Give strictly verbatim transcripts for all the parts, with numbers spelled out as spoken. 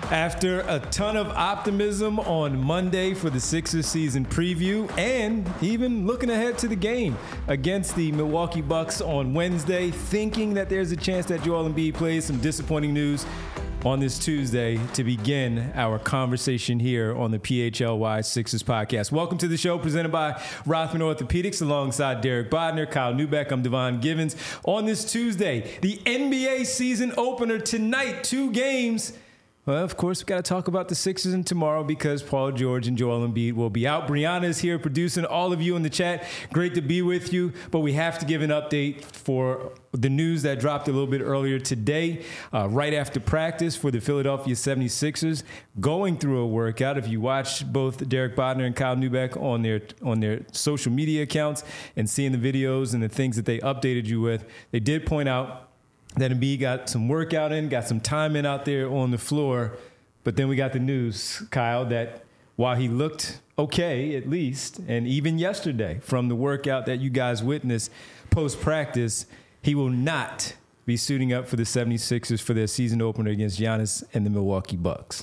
After a ton of optimism on Monday for the Sixers season preview and even looking ahead to the game against the Milwaukee Bucks on Wednesday, thinking that there's a chance that Joel Embiid plays, some disappointing news on this Tuesday to begin our conversation here on the P H L Y Sixers podcast. Welcome to the show presented by Rothman Orthopedics alongside Derek Bodner, Kyle Newbeck. I'm Devon Givens. On this Tuesday, the N B A season opener tonight, two games. Well, of course, we've got to talk about the Sixers and tomorrow because Paul George and Joel Embiid will be out. Brianna is here producing all of you in the chat. Great to be with you, but we have to give an update for the news that dropped a little bit earlier today, uh, right after practice for the Philadelphia seventy-sixers, going through a workout. If you watch both Derek Bodner and Kyle Newbeck on their on their social media accounts and seeing the videos and the things that they updated you with, they did point out that Embiid got some workout in, got some time in out there on the floor. But then we got the news, Kyle, that while he looked okay, at least, and even yesterday from the workout that you guys witnessed post-practice, he will not be suiting up for the seventy-sixers for their season opener against Giannis and the Milwaukee Bucks.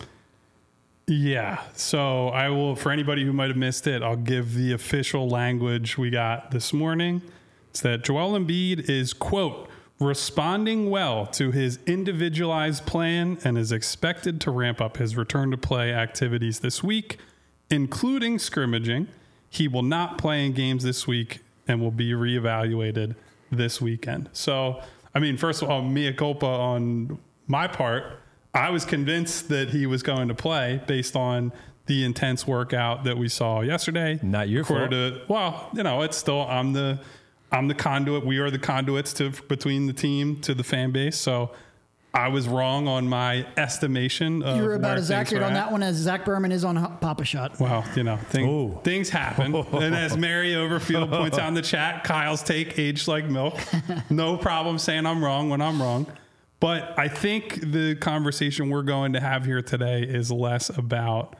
Yeah, so I will, for anybody who might have missed it, I'll give the official language we got this morning. It's that Joel Embiid is, quote, responding well to his individualized plan and is expected to ramp up his return to play activities this week, including scrimmaging. He will not play in games this week and will be reevaluated this weekend. So, I mean, first of all, mea culpa on my part. I was convinced that he was going to play based on the intense workout that we saw yesterday. Not your fault. To, well, you know, it's still, I'm the... I'm the conduit. We are the conduits to between the team to the fan base. So I was wrong on my estimation. Of you were about as accurate on at. that one as Zach Berman is on Papa Shot. Well, you know, thing, things happen. And as Mary Overfield points out in the chat, Kyle's take aged like milk. No problem saying I'm wrong when I'm wrong. But I think the conversation we're going to have here today is less about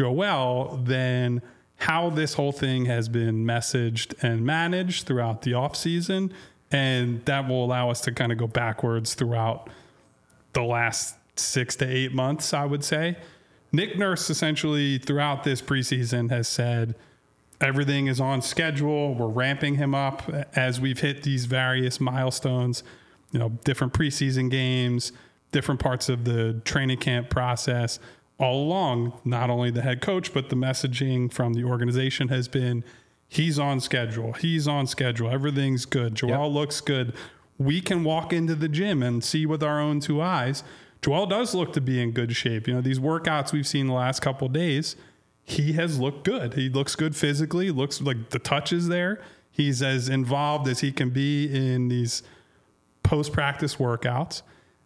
Joel than how this whole thing has been messaged and managed throughout the offseason. And that will allow us to kind of go backwards throughout the last six to eight months, I would say. Nick Nurse essentially throughout this preseason has said everything is on schedule. We're ramping him up as we've hit these various milestones, you know, different preseason games, different parts of the training camp process. All along, not only the head coach, but the messaging from the organization has been, he's on schedule. He's on schedule. Everything's good. Joel yep. looks good. We can walk into the gym and see with our own two eyes. Joel does look to be in good shape. You know, these workouts we've seen the last couple of days, he has looked good. He looks good physically. Looks like the touch is there. He's as involved as he can be in these post-practice workouts.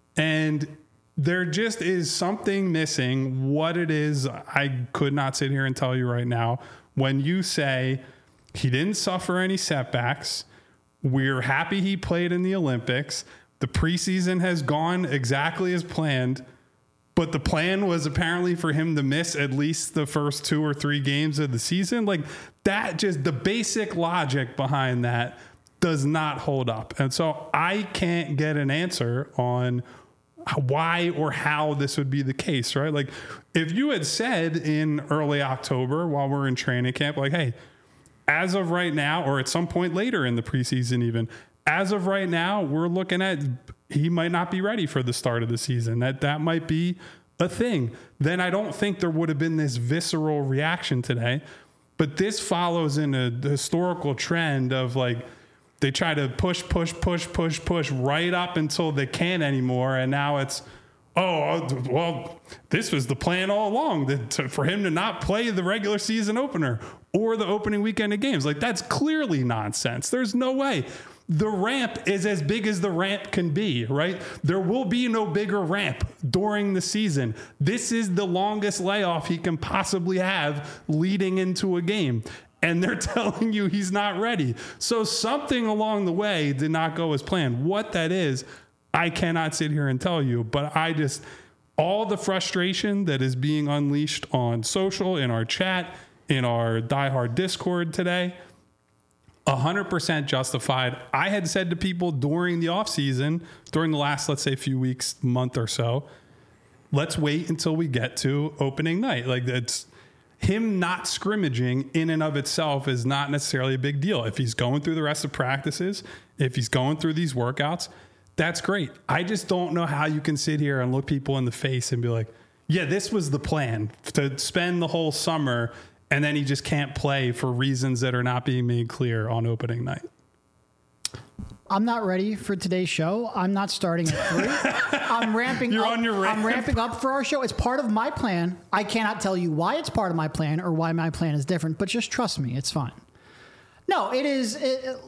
And there just is something missing. What it is, I could not sit here and tell you right now. When you say he didn't suffer any setbacks, we're happy he played in the Olympics, the preseason has gone exactly as planned, but the plan was apparently for him to miss at least the first two or three games of the season. Like that, just the basic logic behind that does not hold up. And so I can't get an answer on why or how this would be the case, right? Like if you had said in early October while we're in training camp, like, hey, as of right now, or at some point later in the preseason even, as of right now, we're looking at he might not be ready for the start of the season. That that might be a thing. Then I don't think there would have been this visceral reaction today. But this follows in a historical trend of like, they try to push, push, push, push, push right up until they can't anymore. And now it's, oh, well, this was the plan all along that to, for him to not play the regular season opener or the opening weekend of games. Like, that's clearly nonsense. There's no way. The ramp is as big as the ramp can be, right? There will be no bigger ramp during the season. This is the longest layoff he can possibly have leading into a game. And they're telling you he's not ready. So something along the way did not go as planned. What that is, I cannot sit here and tell you. But I just, all the frustration that is being unleashed on social, in our chat, in our diehard Discord today, one hundred percent justified. I had said to people during the offseason, during the last, let's say, few weeks, month or so, let's wait until we get to opening night. Like that's him not scrimmaging in and of itself is not necessarily a big deal. If he's going through the rest of practices, if he's going through these workouts, that's great. I just don't know how you can sit here and look people in the face and be like, yeah, this was the plan to spend the whole summer and then he just can't play for reasons that are not being made clear on opening night. I'm not ready for today's show. I'm not starting at three. I'm ramping You're up. on your ramp. I'm ramping up for our show. It's part of my plan. I cannot tell you why it's part of my plan or why my plan is different, but just trust me, it's fine. No, it is. It,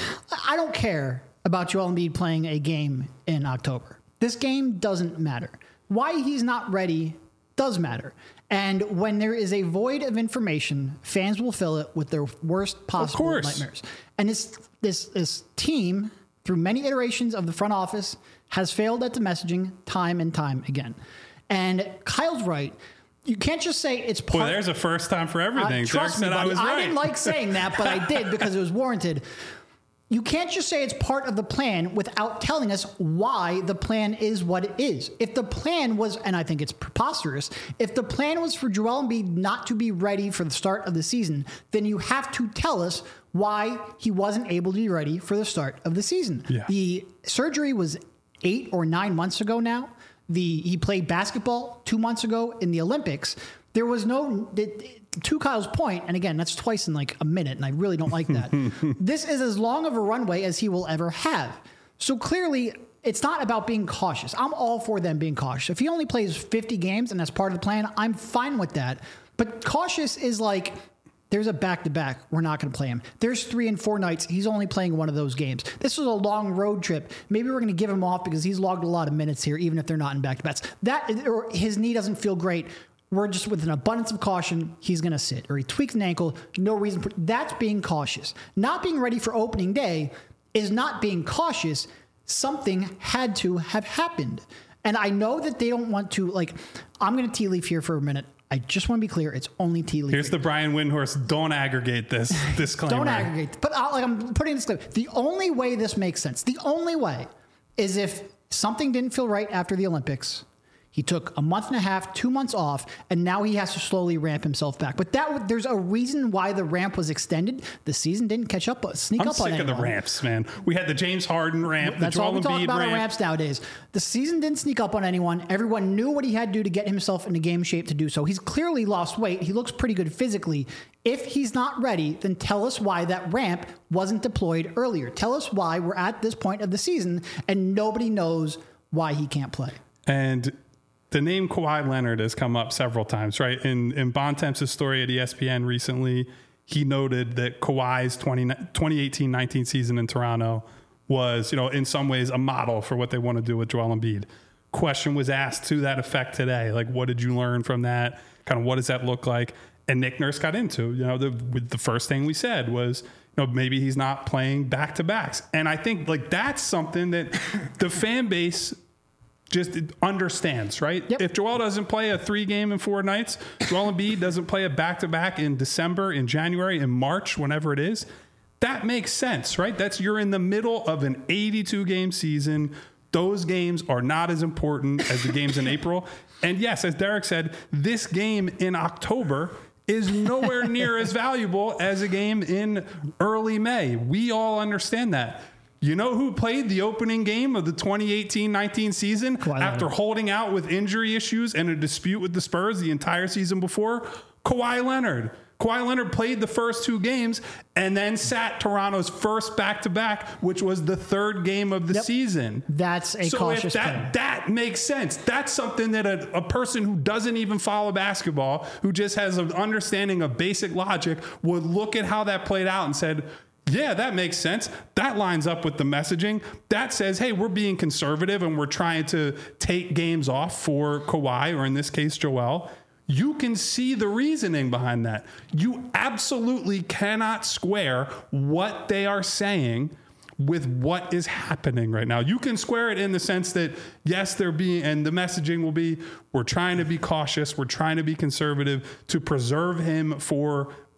I don't care about Joel Embiid playing a game in October. This game doesn't matter. Why he's not ready does matter. And when there is a void of information, fans will fill it with their worst possible nightmares. And this this this team, through many iterations of the front office, has failed at the messaging time and time again. And Kyle's right. You can't just say it's part. Boy, there's a first time for everything. Uh, trust Derek me, said I buddy. was I right. didn't like saying that, but I did because it was warranted. You can't just say it's part of the plan without telling us why the plan is what it is. If the plan was, and I think it's preposterous, if the plan was for Joel Embiid not to be ready for the start of the season, then you have to tell us why he wasn't able to be ready for the start of the season. Yeah. The surgery was eight or nine months ago now. The he played basketball two months ago in the Olympics. There was no, to Kyle's point, and again, that's twice in like a minute, and I really don't like that. This is as long of a runway as he will ever have. So clearly, it's not about being cautious. I'm all for them being cautious. If he only plays fifty games and that's part of the plan, I'm fine with that. But cautious is like, there's a back-to-back. We're not going to play him. There's three and four nights. He's only playing one of those games. This was a long road trip. Maybe we're going to give him off because he's logged a lot of minutes here, even if they're not in back-to-backs. That, or his knee doesn't feel great. We're just with an abundance of caution, he's going to sit. Or he tweaks an ankle, no reason for that's being cautious. Not being ready for opening day is not being cautious. Something had to have happened. And I know that they don't want to, like, I'm going to tea leaf here for a minute. I just want to be clear. It's only tea leaf. Here's the Brian Windhorst. Don't aggregate this disclaimer. Don't aggregate. But I, like I'm putting this, the only way this makes sense, the only way is if something didn't feel right after the Olympics. He took a month and a half, two months off, and now he has to slowly ramp himself back. But that there's a reason why the ramp was extended. The season didn't catch up, sneak I'm up on anyone. I'm sick of the ramps, man. We had the James Harden ramp, That's the all Joel we talk Embiid about ramp. on ramps nowadays. The season didn't sneak up on anyone. Everyone knew what he had to do to get himself into game shape to do so. He's clearly lost weight. He looks pretty good physically. If he's not ready, then tell us why that ramp wasn't deployed earlier. Tell us why we're at this point of the season and nobody knows why he can't play. And the name Kawhi Leonard has come up several times, right? In in Bontemps' story at E S P N recently, he noted that Kawhi's twenty eighteen nineteen season in Toronto was, you know, in some ways a model for what they want to do with Joel Embiid. Question was asked to that effect today. Like, what did you learn from that? Kind of what does that look like? And Nick Nurse got into, you know, the the first thing we said was, you know, maybe he's not playing back to backs. And I think like that's something that the fan base just understands, right? Yep. If Joel doesn't play a three game in four nights, Joel Embiid doesn't play a back-to-back in December, in January, in March, whenever it is, that makes sense, right? That's you're in the middle of an eighty-two game season. Those games are not as important as the games in April. And yes, as Derek said, this game in October is nowhere near as valuable as a game in early May. We all understand that. You know who played the opening game of the twenty eighteen nineteen season Kawhi after Leonard. holding out with injury issues and a dispute with the Spurs the entire season before? Kawhi Leonard. Kawhi Leonard played the first two games and then sat Toronto's first back-to-back, which was the third game of the Yep. season. That's a so cautious if that, plan. that makes sense. That's something that a, a person who doesn't even follow basketball, who just has an understanding of basic logic, would look at how that played out and said, yeah, that makes sense. That lines up with the messaging. That says, hey, we're being conservative and we're trying to take games off for Kawhi, or in this case, Joel. You can see the reasoning behind that. You absolutely cannot square what they are saying with what is happening right now. You can square it in the sense that, yes, they're being, and the messaging will be, we're trying to be cautious. We're trying to be conservative to preserve him for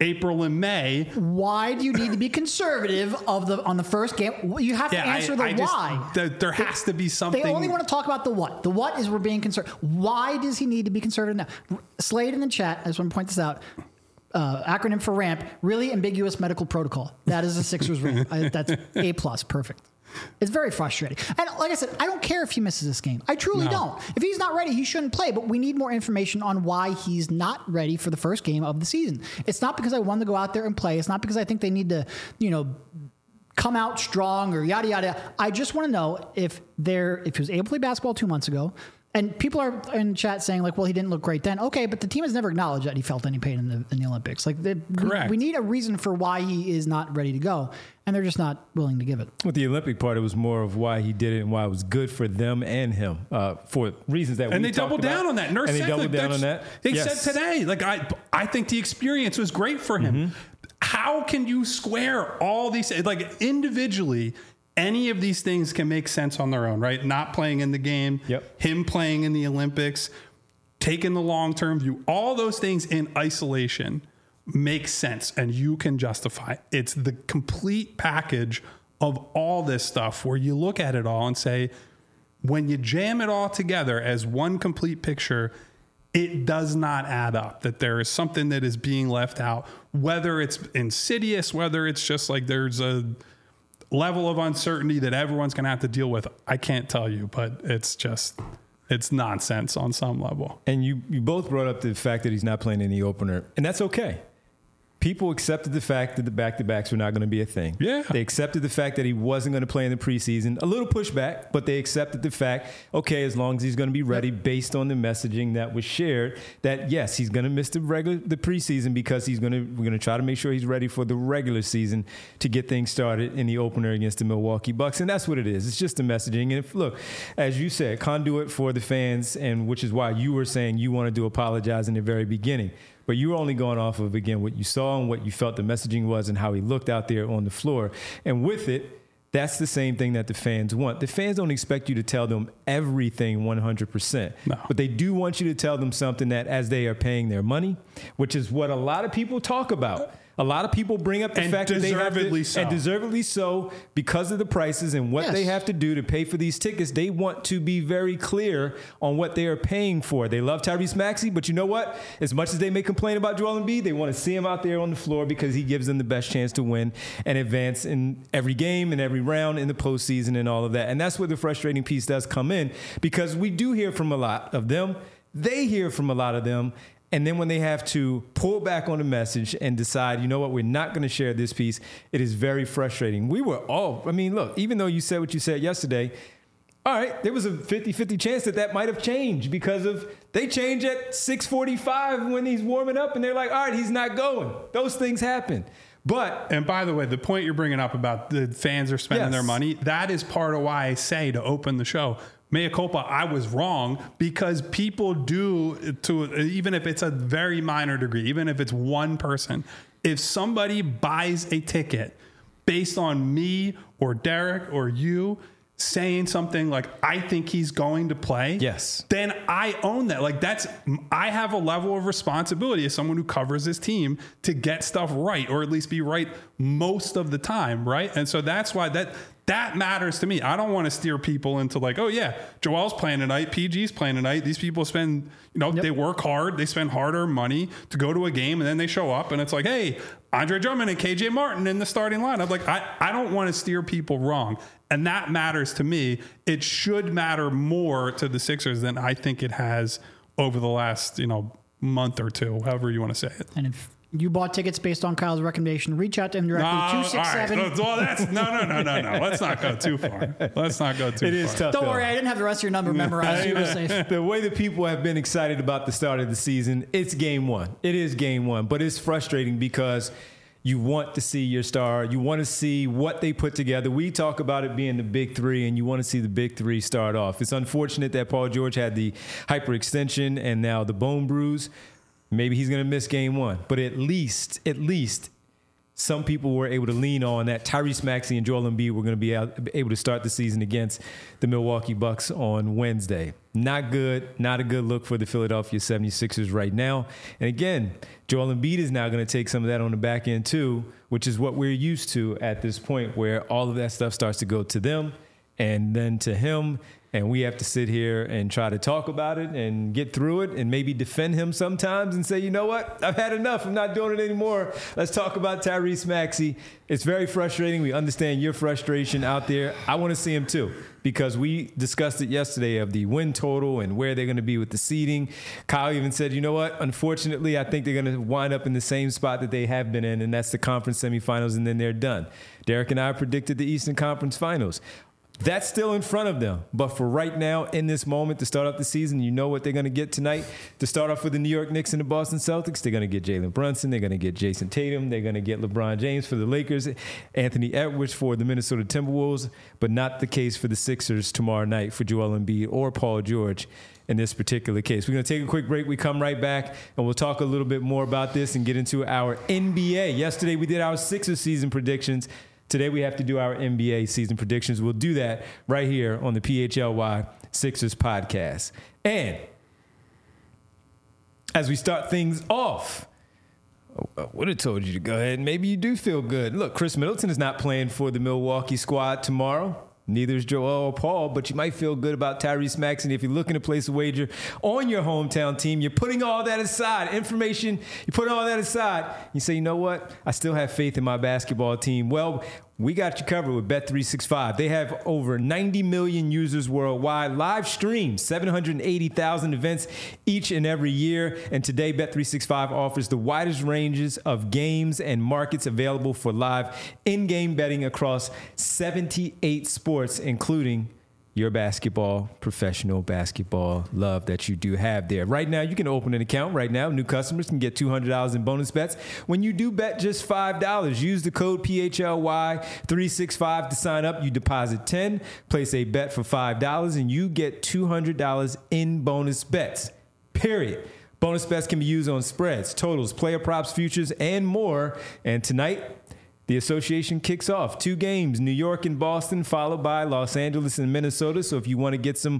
April and May. Why do you need to be conservative of the on the first game? You have Yeah, to answer I, the I just, why. There, there has to be something. They only want to talk about the what. The what is we're being conservative. Why does he need to be conservative now? Slade in the chat, I just want to point this out. Uh, acronym for RAMP, really ambiguous medical protocol. That is a Sixers rule. I, that's A plus, perfect. It's very frustrating. And like I said, I don't care if he misses this game. I truly No. don't. If he's not ready, he shouldn't play. But we need more information on why he's not ready for the first game of the season. It's not because I want to go out there and play. It's not because I think they need to, you know, come out strong or yada yada. I just want to know if they're if he was able to play basketball two months ago. And people are in chat saying like, well, he didn't look great then. Okay, but the team has never acknowledged that he felt any pain in the in the Olympics. Like, they, Correct. We, we need a reason for why he is not ready to go, and they're just not willing to give it. With the Olympic part, it was more of why he did it and why it was good for them and him uh, for reasons that And we they doubled talked down about. on that. Nurse and they said, doubled like, down on that's- that. They Yes. said today, like I, I think the experience was great for him. Mm-hmm. How can you square all these like individually? Any of these things can make sense on their own, right? Not playing in the game, Yep. him playing in the Olympics, taking the long-term view, all those things in isolation make sense and you can justify. It's the complete package of all this stuff where you look at it all and say, when you jam it all together as one complete picture, it does not add up, that there is something that is being left out, whether it's insidious, whether it's just like there's a level of uncertainty that everyone's going to have to deal with. I can't tell you, but it's just, it's nonsense on some level. And you, you both brought up the fact that he's not playing in the opener, and that's okay. People accepted the fact that the back-to-backs were not going to be a thing. Yeah. They accepted the fact that he wasn't going to play in the preseason. A little pushback, but they accepted the fact, okay, as long as he's going to be ready based on the messaging that was shared, that yes, he's going to miss the regular the preseason because he's going to we're going to try to make sure he's ready for the regular season to get things started in the opener against the Milwaukee Bucks. And that's what it is. It's just the messaging. And if, look, as you said, conduit for the fans, and which is why you were saying you wanted to apologize in the very beginning. But you were only going off of, again, what you saw and what you felt the messaging was and how he looked out there on the floor. And with it, that's the same thing that the fans want. The fans don't expect you to tell them everything one hundred percent. No. But they do want you to tell them something that as they are paying their money, which is what a lot of people talk about. A lot of people bring up the And fact that they have to, deservedly so. and deservedly so, because of the prices and what Yes. they have to do to pay for these tickets. They want to be very clear on what they are paying for. They love Tyrese Maxey, but you know what? As much as they may complain about Joel Embiid, they want to see him out there on the floor because he gives them the best chance to win and advance in every game and every round in the postseason and all of that. And that's where the frustrating piece does come in, because we do hear from a lot of them. They hear from a lot of them. And then when they have to pull back on the message and decide, you know what, we're not going to share this piece, it is very frustrating. We were all, I mean, look, even though you said what you said yesterday, all right, there was a fifty-fifty chance that that might have changed because of they change at six forty-five when he's warming up and they're like, all right, he's not going. Those things happen. But And by the way, the point you're bringing up about the fans are spending Yes. their money, that is part of why I say to open the show, mea culpa, I was wrong, because people do, to even if it's a very minor degree, even if it's one person, if somebody buys a ticket based on me or Derek or you saying something like, I think he's going to play, Yes. then I own that. Like that's, I have a level of responsibility as someone who covers this team to get stuff right, or at least be right most of the time. Right. And so that's why that, that matters to me. I don't want to steer people into like, oh yeah, Joel's playing tonight, P G's playing tonight. These people spend, you know, Yep. they work hard, they spend harder money to go to a game, and then they show up and it's like, hey, Andre Drummond and K J Martin in the starting lineup. Like I, I don't want to steer people wrong. And that matters to me. It should matter more to the Sixers than I think it has over the last, you know, month or two, however you want to say it. And if you bought tickets based on Kyle's recommendation, reach out to him directly. No, two six seven. all right. Well, that's no, no, no, no, no. Let's not go too far. Let's not go too it far. is tough. Don't though. worry, I didn't have the rest of your number memorized. You were safe. The way that people have been excited about the start of the season, it's game one. It is game one, but it's frustrating because you want to see your star. You want to see what they put together. We talk about it being the big three, and you want to see the big three start off. It's unfortunate that Paul George had the hyperextension and now the bone bruise. Maybe he's going to miss game one, but at least, at least some people were able to lean on that Tyrese Maxey and Joel Embiid were going to be out, able to start the season against the Milwaukee Bucks on Wednesday. Not good, not a good look for the Philadelphia seventy-sixers right now. And again, Joel Embiid is now going to take some of that on the back end too, which is what we're used to at this point, where all of that stuff starts to go to them and then to him. And we have to sit here and try to talk about it and get through it and maybe defend him sometimes and say, you know what, I've had enough. I'm not doing it anymore. Let's talk about Tyrese Maxey. It's very frustrating. We understand your frustration out there. I want to see him too, because we discussed it yesterday of the win total and where they're going to be with the seeding. Kyle even said, you know what, unfortunately, I think they're going to wind up in the same spot that they have been in, and that's the conference semifinals, and then they're done. Derek and I predicted the Eastern Conference Finals. That's still in front of them. But for right now, in this moment, to start off the season, you know what they're going to get tonight. To start off with the New York Knicks and the Boston Celtics, they're going to get Jalen Brunson. They're going to get Jason Tatum. They're going to get LeBron James for the Lakers, Anthony Edwards for the Minnesota Timberwolves, but not the case for the Sixers tomorrow night for Joel Embiid or Paul George in this particular case. We're going to take a quick break. We come right back, and we'll talk a little bit more about this and get into our N B A. Yesterday, we did our Sixers season predictions. Today we have to do our N B A season predictions. We'll do that right here on the P H L Y Sixers podcast. And as we start things off, I would have told you to go ahead and maybe you do feel good. Look, Chris Middleton is not playing for the Milwaukee squad tomorrow. Neither is Joel or Paul, but you might feel good about Tyrese Maxey. And if you're looking to place a wager on your hometown team, you're putting all that aside. Information, you put all that aside. You say, you know what? I still have faith in my basketball team. Well, we got you covered with Bet three sixty-five. They have over ninety million users worldwide, live streams, seven hundred eighty thousand events each and every year. And today, Bet three sixty-five offers the widest ranges of games and markets available for live in-game betting across seventy-eight sports, including your basketball, professional basketball love that you do have there. Right now, you can open an account right now. New customers can get two hundred dollars in bonus bets when you do bet just five dollars. Use the code P H L Y three sixty-five to sign up. You deposit ten dollars, place a bet for five dollars, and you get two hundred dollars in bonus bets, period. Bonus bets can be used on spreads, totals, player props, futures, and more. And tonight, the association kicks off. Two games, New York and Boston, followed by Los Angeles and Minnesota. So if you want to get some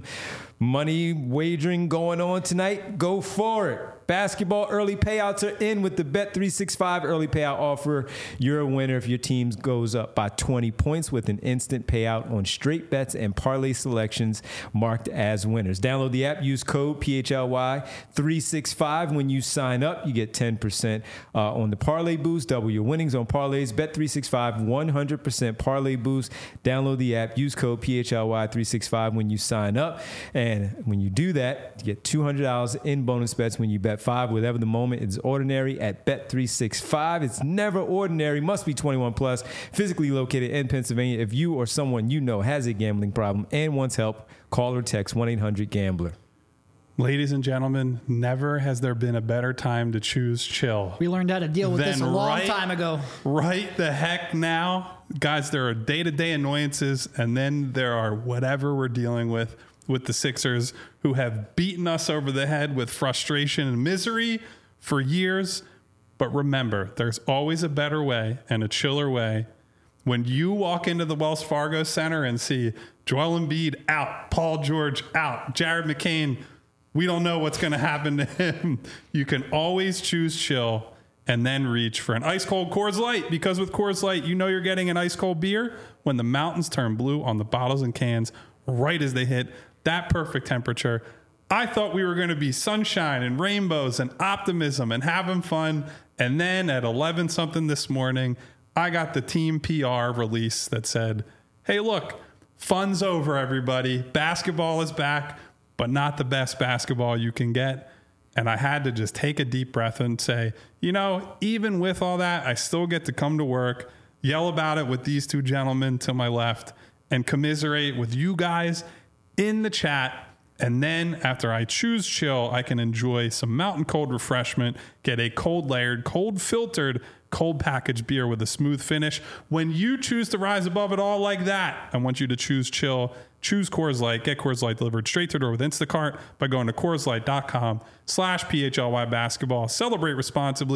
money wagering going on tonight, go for it. Basketball early payouts are in with the Bet three sixty-five early payout offer. You're a winner if your team goes up by twenty points with an instant payout on straight bets and parlay selections marked as winners. Download the app. Use code P H L Y three sixty-five when you sign up. You get ten percent uh, on the parlay boost. Double your winnings on parlays. Bet three sixty-five one hundred percent parlay boost. Download the app. Use code P H L Y three sixty-five when you sign up. And when you do that, you get two hundred dollars in bonus bets when you bet five. Whatever the moment is ordinary at Bet three sixty-five. It's never ordinary. Must be twenty-one plus. Physically located in Pennsylvania. If you or someone you know has a gambling problem and wants help, call or text one eight hundred gambler. Ladies and gentlemen, never has there been a better time to choose chill. We learned how to deal with Then this a long right- time ago. Right the heck now. Guys, there are day-to-day annoyances, and then there are whatever we're dealing with with the Sixers, who have beaten us over the head with frustration and misery for years. But remember, there's always a better way and a chiller way. When you walk into the Wells Fargo Center and see Joel Embiid out, Paul George out, Jared McCain, we don't know what's going to happen to him. You can always choose chill and then reach for an ice cold Coors Light, because with Coors Light, you know you're getting an ice cold beer when the mountains turn blue on the bottles and cans right as they hit that perfect temperature. I thought we were going to be sunshine and rainbows and optimism and having fun. And then at eleven something this morning, I got the team P R release that said, hey, look, fun's over, everybody. Basketball is back, but not the best basketball you can get. And I had to just take a deep breath and say, you know, even with all that, I still get to come to work, yell about it with these two gentlemen to my left, and commiserate with you guys in the chat. And then after I choose chill, I can enjoy some mountain cold refreshment, get a cold layered, cold filtered, cold packaged beer with a smooth finish. When you choose to rise above it all like that, I want you to choose chill. Choose Coors Light. Get Coors Light delivered straight to your door with Instacart by going to CoorsLight.com slash PHLY basketball. Celebrate responsibly.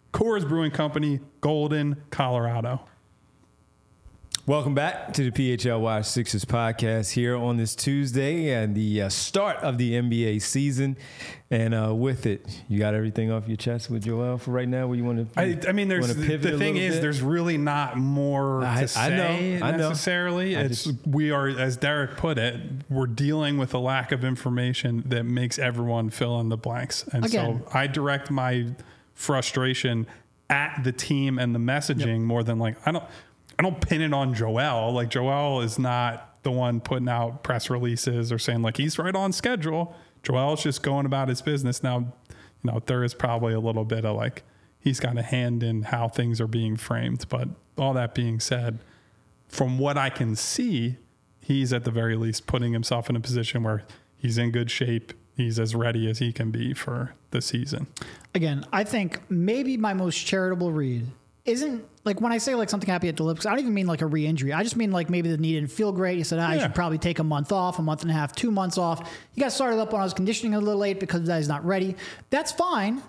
Coors Brewing Company, Golden, Colorado. Welcome back to the P H L Y Sixers podcast here on this Tuesday and the uh, start of the N B A season. And uh, with it, you got everything off your chest with Joel for right now? Where you want to? I, I mean, there's the, the thing is, bit? there's really not more I, to say I know, I necessarily. know. It's just, we are, as Derek put it, we're dealing with a lack of information that makes everyone fill in the blanks. And Again. so I direct my frustration at the team and the messaging yep. more than like I don't. I don't pin it on Joel. Like Joel is not the one putting out press releases or saying like he's right on schedule. Joel's just going about his business. Now, you know, there is probably a little bit of like he's got a hand in how things are being framed. But all that being said, from what I can see, he's at the very least putting himself in a position where he's in good shape. He's as ready as he can be for the season. Again, I think maybe my most charitable read isn't like when I say like something happy at the Olympics, I don't even mean like a re-injury. I just mean like maybe the knee didn't feel great. He said, ah, yeah. I should probably take a month off, a month and a half, two months off. He got started up when I was conditioning a little late because he's not ready. That's fine.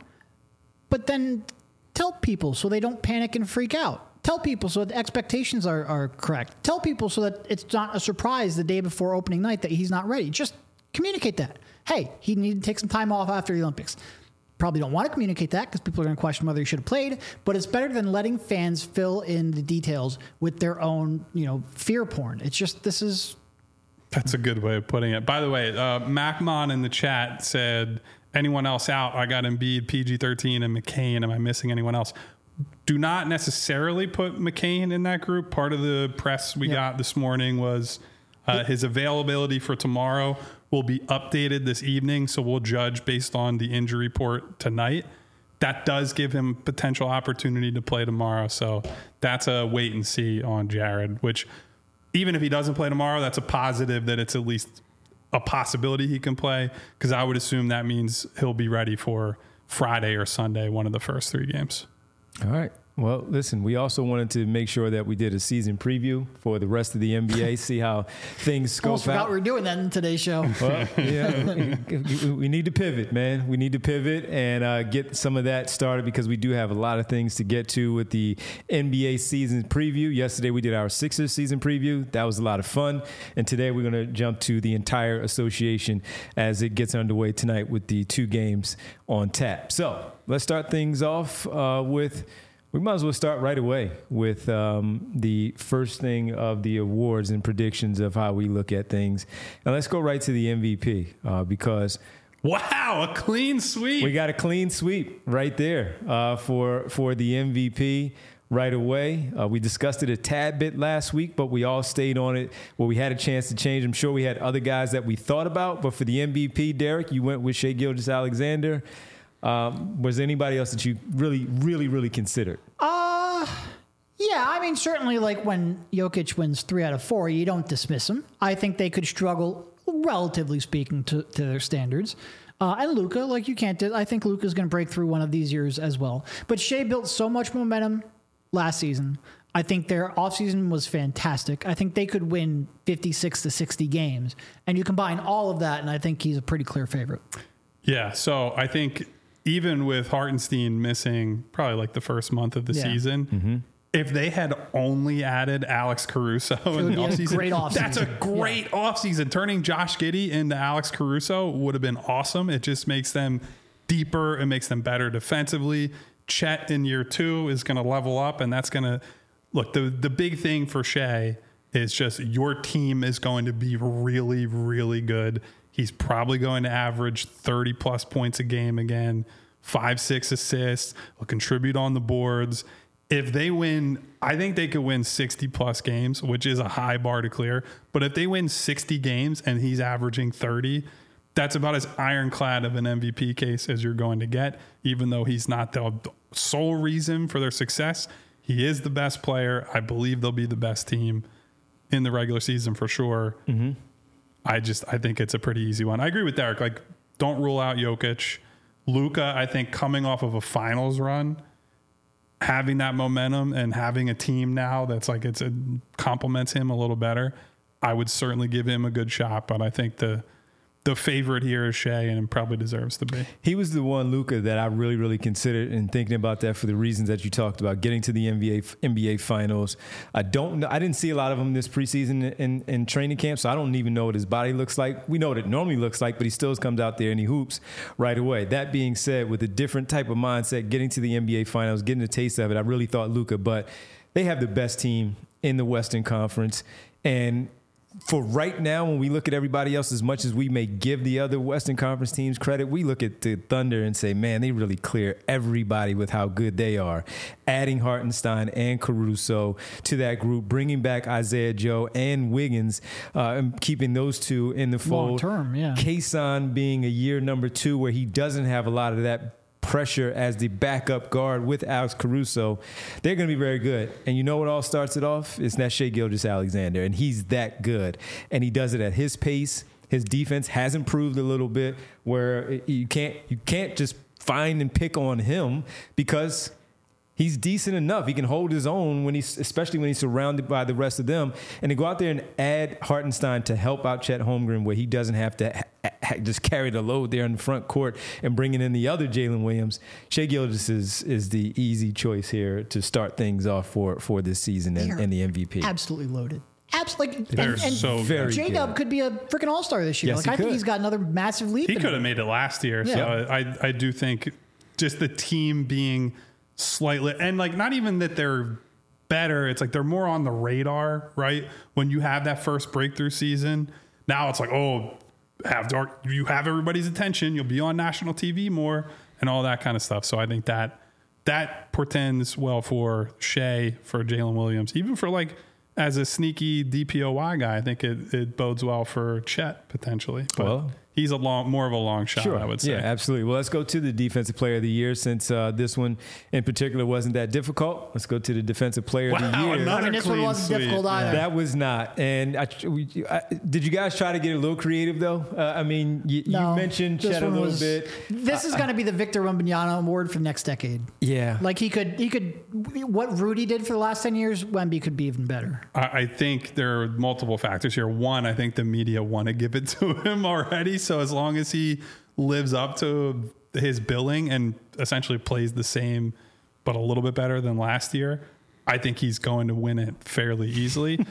But then tell people so they don't panic and freak out. Tell people so that the expectations are, are correct. Tell people so that it's not a surprise the day before opening night that he's not ready. Just communicate that. Hey, he needed to take some time off after the Olympics. Probably don't want to communicate that because people are going to question whether he should have played, but it's better than letting fans fill in the details with their own, you know, fear porn. It's just, this is. That's a good way of putting it. By the way, uh, MacMon in the chat said, anyone else out? I got Embiid, P G thirteen, and McCain. Am I missing anyone else? Do not necessarily put McCain in that group. Part of the press we yep. got this morning was uh, his availability for tomorrow will be updated this evening, so we'll judge based on the injury report tonight. That does give him potential opportunity to play tomorrow, so that's a wait and see on Jared, which even if he doesn't play tomorrow, that's a positive that it's at least a possibility he can play, because I would assume that means he'll be ready for Friday or Sunday, one of the first three games. All right. Well, listen, we also wanted to make sure that we did a season preview for the rest of the N B A, see how things scope Almost out. forgot we were doing that in today's show. Well, yeah, we need to pivot, man. We need to pivot and uh, get some of that started because we do have a lot of things to get to with the N B A season preview. Yesterday, we did our Sixers season preview. That was a lot of fun. And today, we're going to jump to the entire association as it gets underway tonight with the two games on tap. So let's start things off uh, with... We might as well start right away with um, the first thing of the awards and predictions of how we look at things. And let's go right to the M V P uh, because... Wow, a clean sweep. We got a clean sweep right there uh, for, for the M V P right away. Uh, we discussed it a tad bit last week, but we all stayed on it where we had a chance to change. I'm sure we had other guys that we thought about, but for the M V P, Derek, you went with Shai Gilgeous-Alexander. Um, was there anybody else that you really, really, really considered? Uh, yeah, I mean, certainly like when Jokic wins three out of four, you don't dismiss him. I think they could struggle, relatively speaking, to, to their standards. Uh, and Luka, like you can't do, I think Luka's going to break through one of these years as well. But Shai built so much momentum last season. I think their offseason was fantastic. I think they could win fifty-six to sixty games. And you combine all of that, and I think he's a pretty clear favorite. Yeah, so I think... even with Hartenstein missing probably like the first month of the yeah. season, mm-hmm. if they had only added Alex Caruso in the offseason, great off that's a great yeah. offseason. Turning Josh Giddey into Alex Caruso would have been awesome. It just makes them deeper. It makes them better defensively. Chet in year two is going to level up, and that's going to look. The, the big thing for Shai is just your team is going to be really, really good. He's probably going to average thirty plus points a game again, five, six assists, will contribute on the boards. If they win, I think they could win sixty plus games, which is a high bar to clear. But if they win sixty games and he's averaging thirty, that's about as ironclad of an M V P case as you're going to get, even though he's not the sole reason for their success. He is the best player. I believe they'll be the best team in the regular season for sure. Mm-hmm. I just, I think it's a pretty easy one. I agree with Derek. Like, don't rule out Jokic. Luka, I think coming off of a finals run, having that momentum and having a team now that's like, it's a, complements him a little better. I would certainly give him a good shot, but I think the, the favorite here is Shea, and probably deserves to be. He was the one, Luka, that I really, really considered in thinking about that for the reasons that you talked about, getting to the N B A N B A Finals. I don't know. I didn't see a lot of him this preseason in, in training camp, so I don't even know what his body looks like. We know what it normally looks like, but he still comes out there and he hoops right away. That being said, with a different type of mindset, getting to the N B A Finals, getting a taste of it, I really thought Luka, but they have the best team in the Western Conference. And for right now, when we look at everybody else, as much as we may give the other Western Conference teams credit, we look at the Thunder and say, man, they really clear everybody with how good they are. Adding Hartenstein and Caruso to that group, bringing back Isaiah Joe and Wiggins, uh, and keeping those two in the fold. Long term, yeah. Kason being a year number two where he doesn't have a lot of that pressure as the backup guard with Alex Caruso, they're going to be very good. And you know what all starts it off? It's that Shai Gilgeous-Alexander, and he's that good. And he does it at his pace. His defense has improved a little bit where you can't you can't just find and pick on him because he's decent enough. He can hold his own when he's, especially when he's surrounded by the rest of them. And to go out there and add Hartenstein to help out Chet Holmgren, where he doesn't have to ha- ha- just carry the load there in the front court and bringing in the other Jalen Williams, Shai Gilgeous is is the easy choice here to start things off for for this season and, and the M V P. Absolutely loaded. Absolutely. They're and, and so very J-Dub good. could be a freaking all-star this year. Yes, like he I think could. he's got another massive leap. He in could him. have made it last year. Yeah. So I, I do think just the team being slightly, and like not even that they're better. It's like they're more on the radar, right? When you have that first breakthrough season, now it's like, oh, have dark, you have everybody's attention. You'll be on national T V more and all that kind of stuff. So I think that that portends well for Shea, for Jalen Williams, even for like as a sneaky D P O Y guy. I think it, it bodes well for Chet potentially. But Well, he's a long, more of a long shot, Sure. I would say. Yeah, absolutely. Well, let's go to the Defensive Player of the Year since uh, this one in particular wasn't that difficult. Let's go to the Defensive Player of the Wow, Year. another I mean, this one clean wasn't sweep. difficult either. That was not. And I, we, I, did you guys try to get a little creative, though? Uh, I mean, you, No, you mentioned this Chet a one little was- bit. This is going to be the Victor Wembanyama Award for next decade. Yeah. Like he could, he could, what Rudy did for the last ten years, Wemby could be even better. I I think there are multiple factors here. One, I think the media want to give it to him already. So as long as he lives up to his billing and essentially plays the same, but a little bit better than last year, I think he's going to win it fairly easily.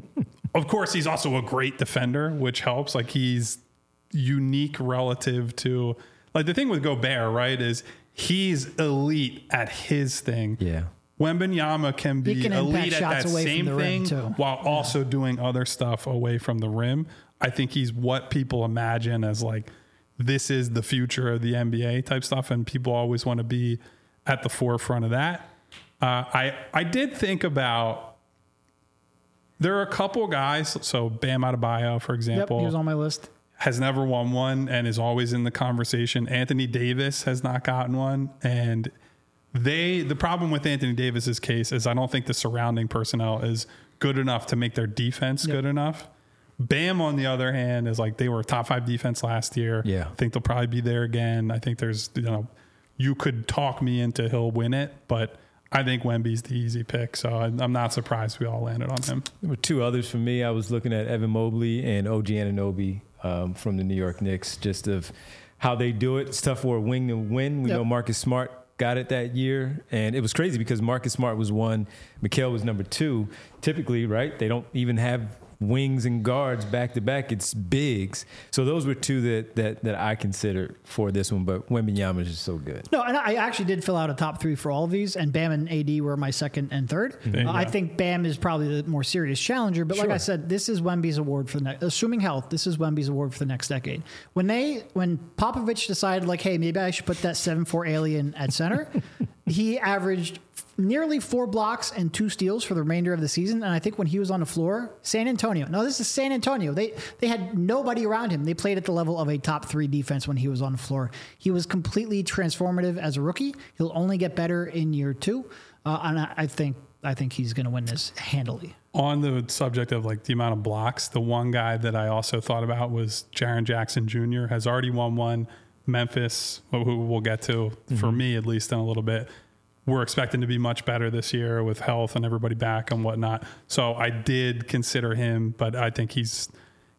Of course, he's also a great defender, which helps. Like he's unique relative to, like the thing with Gobert, right, is he's elite at his thing. Yeah. Wembanyama can be He can impact elite at shots that away from same the rim, thing too. while also doing other stuff away from the rim. I think he's what people imagine as like, this is the future of the N B A type stuff. And people always want to be at the forefront of that. Uh, I, I did think about, there are a couple guys. So Bam Adebayo, for Yep, example, he was on my list. has never won one and is always in the conversation. Anthony Davis has not gotten one. And they, the problem with Anthony Davis's case is I don't think the surrounding personnel is good enough to make their defense Yep. good enough. Bam, on the other hand, is like they were a top five defense last year. Yeah. I think they'll probably be there again. I think there's, you know, you could talk me into he'll win it, but I think Wemby's the easy pick. So I, I'm not surprised we all landed on him. There were two others for me. I was looking at Evan Mobley and O G Anunoby um, from the New York Knicks, just of how they do it. It's tough for a wing to win. We Yep. know Marcus Smart got it that year, and it was crazy because Marcus Smart was one, Mikal was number two. Typically, right, they don't even have wings and guards back to back. It's bigs. So those were two that that that I considered for this one. But Wembanyama is just so good. No, and I actually did fill out a top three for all of these, and Bam and A D were my second and third. There you Uh, I go. think Bam is probably the more serious challenger, but like Sure. I said, this is Wemby's award for the next, assuming health, this is Wemby's award for the next decade. When they, when Popovich decided like, hey, maybe I should put that seven four alien at center, he averaged nearly four blocks and two steals for the remainder of the season. And I think when he was on the floor, San Antonio, no, this is San Antonio. They they had nobody around him. They played at the level of a top three defense when he was on the floor. He was completely transformative as a rookie. He'll only get better in year two. Uh, and I, I think I think he's going to win this handily. On the subject of like the amount of blocks, the one guy that I also thought about was Jaren Jackson Junior has already won one. Memphis, who we'll get to, mm-hmm. for me at least in a little bit, we're expecting to be much better this year with health and everybody back and whatnot. So I did consider him, but I think he's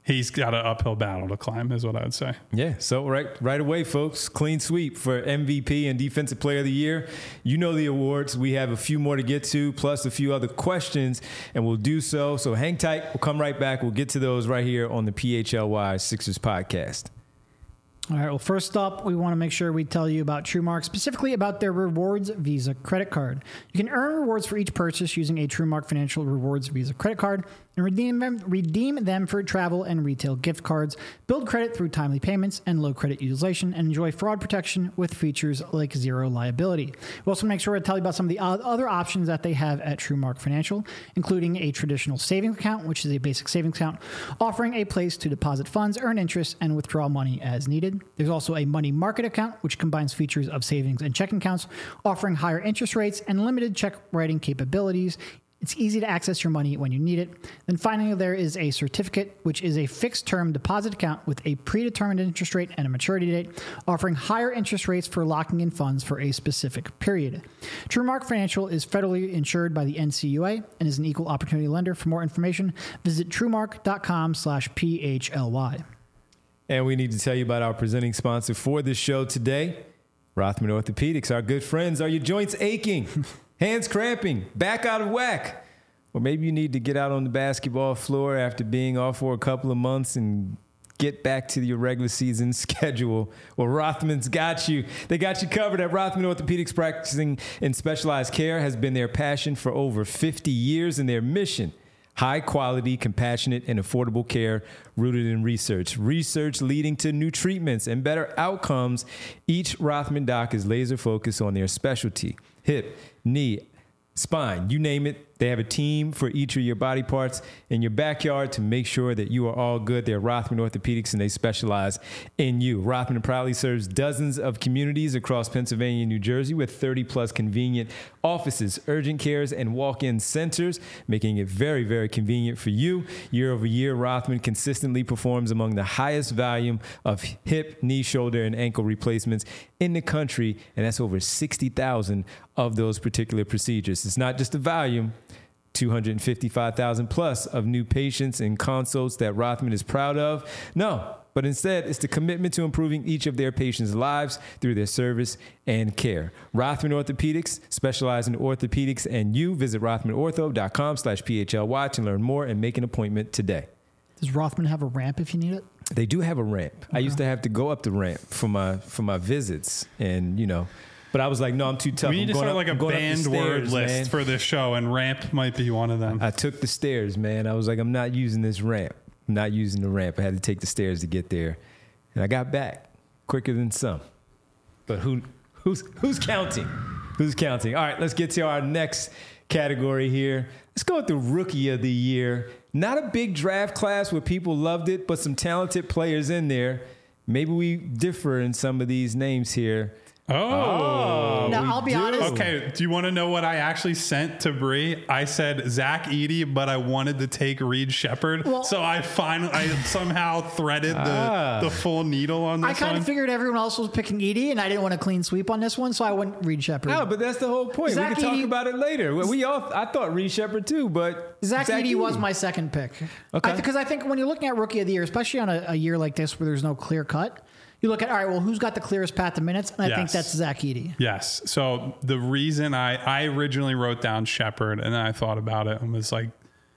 he's got an uphill battle to climb, is what I would say. Yeah, so right right away, folks, clean sweep for M V P and Defensive Player of the Year. You know the awards. We have a few more to get to, plus a few other questions, and we'll do so. So hang tight. We'll come right back. We'll get to those right here on the P H L Y Sixers podcast. All right, well, first up, we want to make sure we tell you about TrueMark, specifically about their Rewards Visa credit card. You can earn rewards for each purchase using a TrueMark Financial Rewards Visa credit card and redeem them, redeem them for travel and retail gift cards, build credit through timely payments and low credit utilization, and enjoy fraud protection with features like zero liability. We also make sure to tell you about some of the other options that they have at TrueMark Financial, including a traditional savings account, which is a basic savings account, offering a place to deposit funds, earn interest, and withdraw money as needed. There's also a money market account, which combines features of savings and checking accounts, offering higher interest rates and limited check writing capabilities. It's easy to access your money when you need it. Then finally, there is a certificate, which is a fixed-term deposit account with a predetermined interest rate and a maturity date, offering higher interest rates for locking in funds for a specific period. TrueMark Financial is federally insured by the N C U A and is an equal opportunity lender. For more information, visit truemark.com slash PHLY. And we need to tell you about our presenting sponsor for this show today, Rothman Orthopedics. Our good friends. Are your joints aching? Hands cramping, back out of whack? Or maybe you need to get out on the basketball floor after being off for a couple of months and get back to your regular season schedule. Well, Rothman's got you. They got you covered at Rothman Orthopedics. Practicing in specialized care has been their passion for over fifty years, and their mission: high quality, compassionate, and affordable care rooted in research. Research leading to new treatments and better outcomes. Each Rothman doc is laser focused on their specialty: hip, knee, spine, you name it. They have a team for each of your body parts in your backyard to make sure that you are all good. They're Rothman Orthopedics, and they specialize in you. Rothman proudly serves dozens of communities across Pennsylvania and New Jersey with thirty plus convenient offices, urgent cares, and walk-in centers, making it very, very convenient for you. Year over year, Rothman consistently performs among the highest volume of hip, knee, shoulder, and ankle replacements in the country, and that's over sixty thousand of those particular procedures. It's not just the volume. two hundred fifty-five thousand plus of new patients and consults that Rothman is proud of. No, but instead it's the commitment to improving each of their patients' lives through their service and care. Rothman Orthopedics specialize in orthopedics and you. Visit rothmanortho.com slash PHLY to learn more and make an appointment today. Does Rothman have a ramp if you need it? They do have a ramp. Okay. I used to have to go up the ramp for my for my visits, and you know. But I was like, no, I'm too tough. We need I'm to going start up, like a going banned stairs, word list man. for this show, and ramp might be one of them. I took the stairs, man. I was like, I'm not using this ramp. I'm not using the ramp. I had to take the stairs to get there. And I got back quicker than some. But who who's who's counting? Who's counting? All right, let's get to our next category here. Let's go with the Rookie of the Year. Not a big draft class where people loved it, but some talented players in there. Maybe we differ in some of these names here. Oh. oh now, I'll be do. honest. Okay, do you want to know what I actually sent to Bree? I said Zach Edey, but I wanted to take Reed Shepherd. Well, so I finally, I somehow threaded ah. the, the full needle on this I kind one. of figured everyone else was picking Edey, and I didn't want a clean sweep on this one, so I went Reed Shepherd. No, but that's the whole point. Zach we can talk Edey, about it later. We all, I thought Reed Shepherd too, but Zach, Zach Edey, Edey was my second pick. Okay. Because I, I think when you're looking at Rookie of the Year, especially on a, a year like this where there's no clear cut, you look at, all right, well, who's got the clearest path to minutes? And I yes. think that's Zach Edey. Yes. So the reason I, I originally wrote down Shepherd and then I thought about it and was like,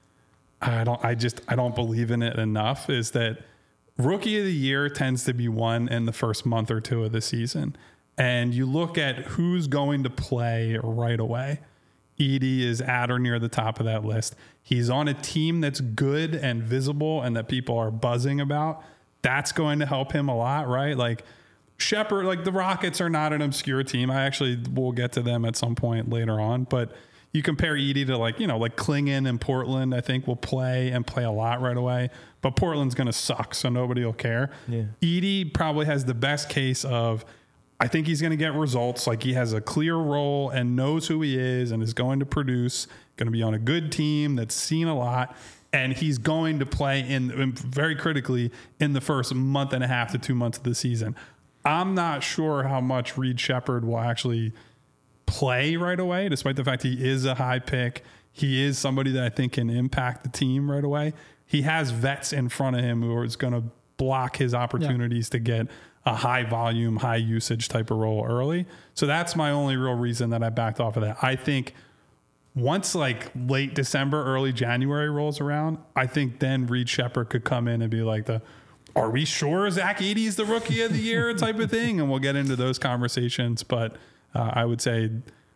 I don't, I just, I don't believe in it enough is that Rookie of the Year tends to be won in the first month or two of the season. And you look at who's going to play right away. Edey is at or near the top of that list. He's on a team that's good and visible and that people are buzzing about. That's going to help him a lot, right? Like Shepherd, like the Rockets are not an obscure team. I actually will get to them at some point later on, but you compare Edey to like, you know, like Klingon and Portland, I think will play and play a lot right away, but Portland's going to suck. So nobody will care. Yeah. Edey probably has the best case of, I think he's going to get results. Like he has a clear role and knows who he is and is going to produce, going to be on a good team that's seen a lot. And he's going to play in very critically in the first month and a half to two months of the season. I'm not sure how much Reed Shepherd will actually play right away, despite the fact he is a high pick. He is somebody that I think can impact the team right away. he has vets in front of him who are going to block his opportunities yeah. to get a high volume, high usage type of role early. So that's my only real reason that I backed off of that. I think once like late December, early January rolls around, I think then Reed Sheppard could come in and be like the, are we sure Zach Edey is the rookie of the year type of thing? And we'll get into those conversations. But uh, I would say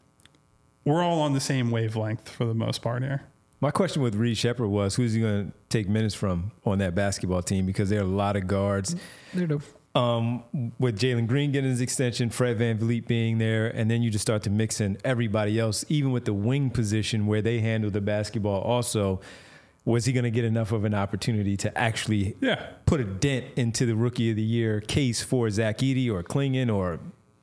we're all on the same wavelength for the most part here. My question with Reed Sheppard was, who's he going to take minutes from on that basketball team? Because there are a lot of guards. There do. Um, with Jalen Green getting his extension, Fred VanVleet being there, and then you just start to mix in everybody else, even with the wing position where they handle the basketball also. Was he going to get enough of an opportunity to actually yeah. put a dent into the Rookie of the Year case for Zach Edey or Klingon or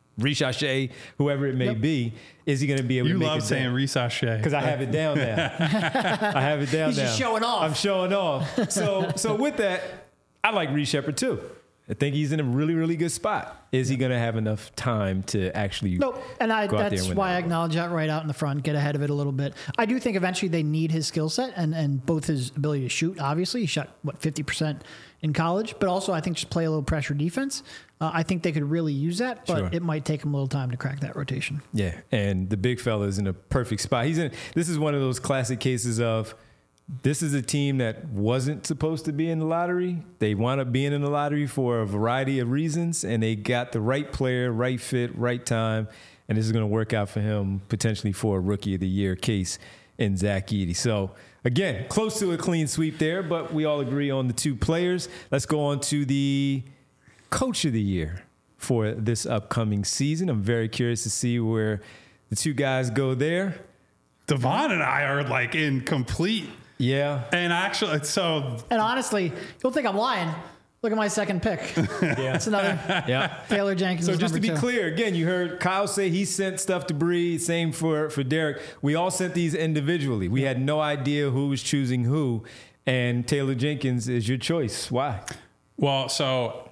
Reed, whoever it may yep. be? Is he going to be able you to make it? You love saying Reed because I have it down now. I have it down He's now. He's just showing off. I'm showing off. So, so with that, I like Reed Sheppard too. I think he's in a really, really good spot. Is he going to have enough time to actually nope. And I, go out that's there and win why that I acknowledge that right out in the front, get ahead of it a little bit. I do think eventually they need his skill set and, and both his ability to shoot. Obviously, he shot, what, fifty percent in college. But also, I think just play a little pressure defense. Uh, I think they could really use that, but sure. it might take him a little time to crack that rotation. Yeah, and the big fella is in a perfect spot. He's in. This is one of those classic cases of this is a team that wasn't supposed to be in the lottery. They wound up being in the lottery for a variety of reasons, and they got the right player, right fit, right time, and this is going to work out for him potentially for a Rookie of the Year case in Zach Edey. So, again, close to a clean sweep there, but we all agree on the two players. Let's go on to the Coach of the Year for this upcoming season. I'm very curious to see where the two guys go there. Devon and I are like in complete... Yeah. And actually, so... And honestly, you'll think I'm lying. Look at my second pick. Yeah. That's another yeah. Taylor Jenkins. So just to be two. clear, again, you heard Kyle say he sent stuff to Bree. Same for, for Derek. We all sent these individually. We had no idea who was choosing who. And Taylor Jenkins is your choice. Why? Well, so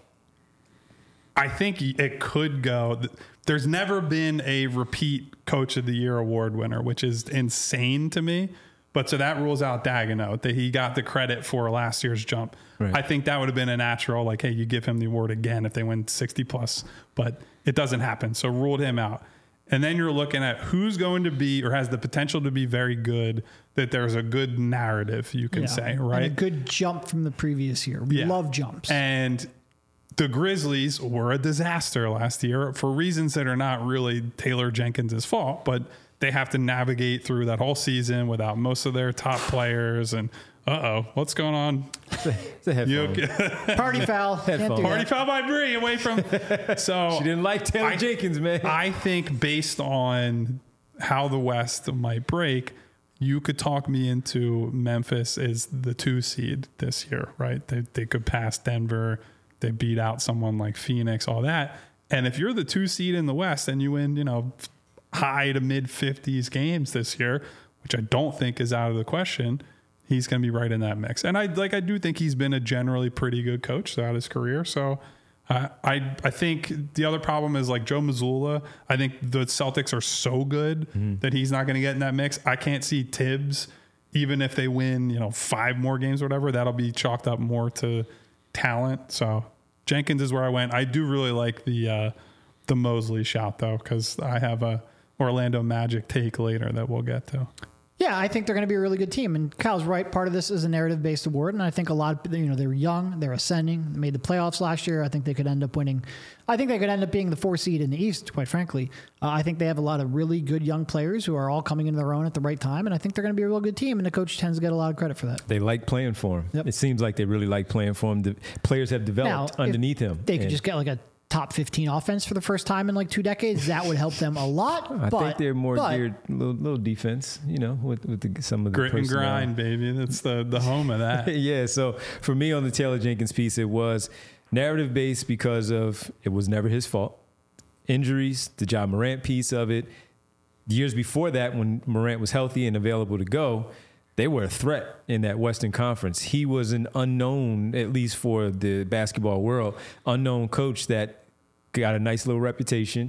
I think it could go... There's never been a repeat Coach of the Year award winner, which is insane to me. But so that rules out Daigneault, that he got the credit for last year's jump. Right. I think that would have been a natural, like, hey, you give him the award again if they win sixty plus, but it doesn't happen. So ruled him out. And then you're looking at who's going to be or has the potential to be very good, that there's a good narrative, you can yeah. say, right? And a good jump from the previous year. We yeah. love jumps. And the Grizzlies were a disaster last year for reasons that are not really Taylor Jenkins' fault, but they have to navigate through that whole season without most of their top players. And uh-oh, what's going on? It's a headphone. Okay. Party foul. Headphone. Party foul by Bree away from. So she didn't like Taylor I, Jenkins, man. I think based on how the West might break, you could talk me into Memphis is the two seed this year, right? They they could pass Denver. They beat out someone like Phoenix, all that. And if you're the two seed in the West and you win, you know, high to mid fifties games this year, which I don't think is out of the question, he's going to be right in that mix. And I like I do think he's been a generally pretty good coach throughout his career. So uh, I I think the other problem is like Joe Mazzulla. I think the Celtics are so good mm-hmm. that he's not going to get in that mix. I can't see Tibbs, even if they win, you know, five more games or whatever, that'll be chalked up more to talent. So Jenkins is where I went. I do really like the uh, the Mosley shout though, because I have a Orlando Magic take later that we'll get to. Yeah, I think they're going to be a really good team. And Kyle's right. Part of this is a narrative-based award. And I think a lot of, you know, they're young, they're ascending, they made the playoffs last year. I think they could end up winning. I think they could end up being the four seed in the East, quite frankly. Uh, I think they have a lot of really good young players who are all coming into their own at the right time. And I think they're going to be a real good team. And the coach tends to get a lot of credit for that. They like playing for him. Yep. It seems like they really like playing for him. The players have developed now, underneath him. They could and just get like a top fifteen offense for the first time in like two decades. That would help them a lot. I but, think they're more but, geared little, little defense, you know, with, with the, some of the grit personnel. and grind, baby. That's the, the home of that. Yeah. So for me on the Taylor Jenkins piece, it was narrative based because of it was never his fault. Injuries, the Ja Morant piece of it. Years before that, when Morant was healthy and available to go, they were a threat in that Western Conference. He was an unknown, at least for the basketball world, unknown coach that got a nice little reputation,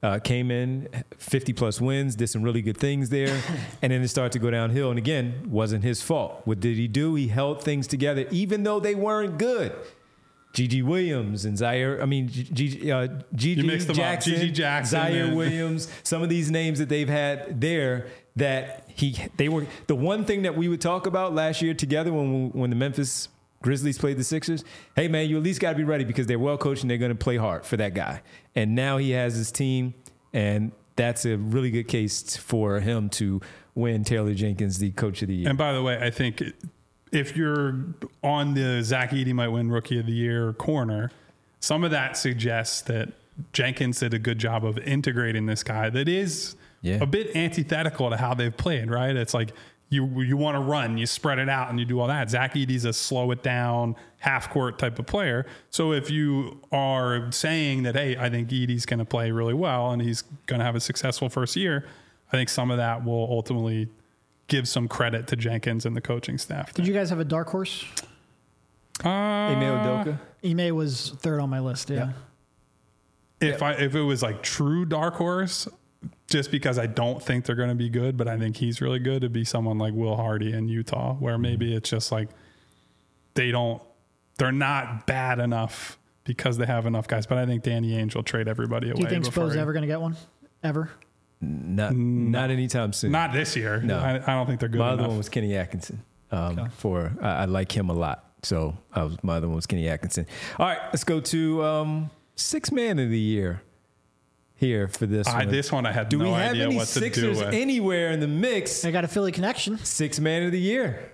Uh, came in fifty plus wins, did some really good things there, and then it started to go downhill. And again, wasn't his fault. What did he do? He held things together, even though they weren't good. Gigi Williams and Zaire, I mean, Gigi, uh, Gigi Jackson, Gigi Jackson, Zaire and Williams, some of these names that they've had there that he, they were, the one thing that we would talk about last year together when we, when the Memphis Grizzlies played the Sixers, hey man, you at least got to be ready because they're well coached and they're going to play hard for that guy. And now he has his team, and that's a really good case for him to win Taylor Jenkins the Coach of the Year. And by the way, I think if you're on the Zach Edey might win Rookie of the Year corner, some of that suggests that Jenkins did a good job of integrating this guy that is yeah. a bit antithetical to how they've played, right? It's like you you want to run, you spread it out, and you do all that. Zach Edey's a slow it down, half court type of player. So if you are saying that, hey, I think Edey's going to play really well and he's going to have a successful first year, I think some of that will ultimately give some credit to Jenkins and the coaching staff. Did you guys have a dark horse? Uh, Ime Udoka? Ime was third on my list, yeah. yeah. If I if it was like true dark horse, just because I don't think they're going to be good, but I think he's really good, to be someone like Will Hardy in Utah, where maybe it's just like they don't, they're not bad enough because they have enough guys. But I think Danny Ainge will trade everybody away. Do you think Spo's ever going to get one? Ever? Not not anytime soon. Not this year. No. I, I don't think they're good my enough. other one was Kenny Atkinson. Um, Okay. For I, I like him a lot. So I was, my other one was Kenny Atkinson. All right, let's go to um, six man of the year here for this I, one. this one I had do no we have idea any what to do Sixers with. anywhere in the mix? I got a Philly connection. Six man of the year.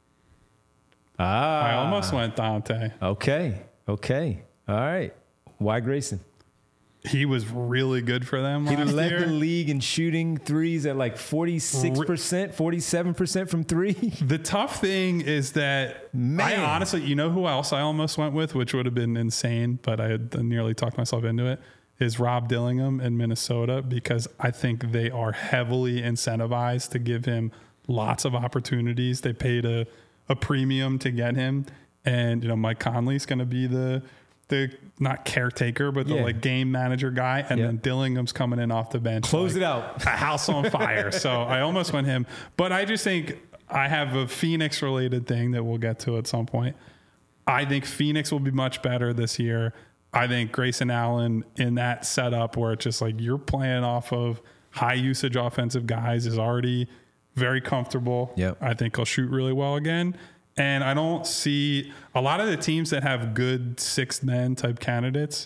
Ah, I almost went Dante. Okay, okay, all right. Why Grayson? He was really good for them He last led year. the league in shooting threes at like forty-six percent, forty-seven percent from three. The tough thing is that Man. I honestly, you know who else I almost went with, which would have been insane, but I had nearly talked myself into it, is Rob Dillingham in Minnesota, because I think they are heavily incentivized to give him lots of opportunities. They paid a, a premium to get him. And, you know, Mike Conley's going to be the, the not caretaker, but the Yeah. like game manager guy. And Yeah. then Dillingham's coming in off the bench. Close like it out. a house on fire. So I almost went him, but I just think I have a Phoenix related thing that we'll get to at some point. I think Phoenix will be much better this year. I think Grayson Allen in that setup where it's just like you're playing off of high usage offensive guys is already very comfortable. Yep. I think he'll shoot really well again. And I don't see a lot of the teams that have good sixth men type candidates,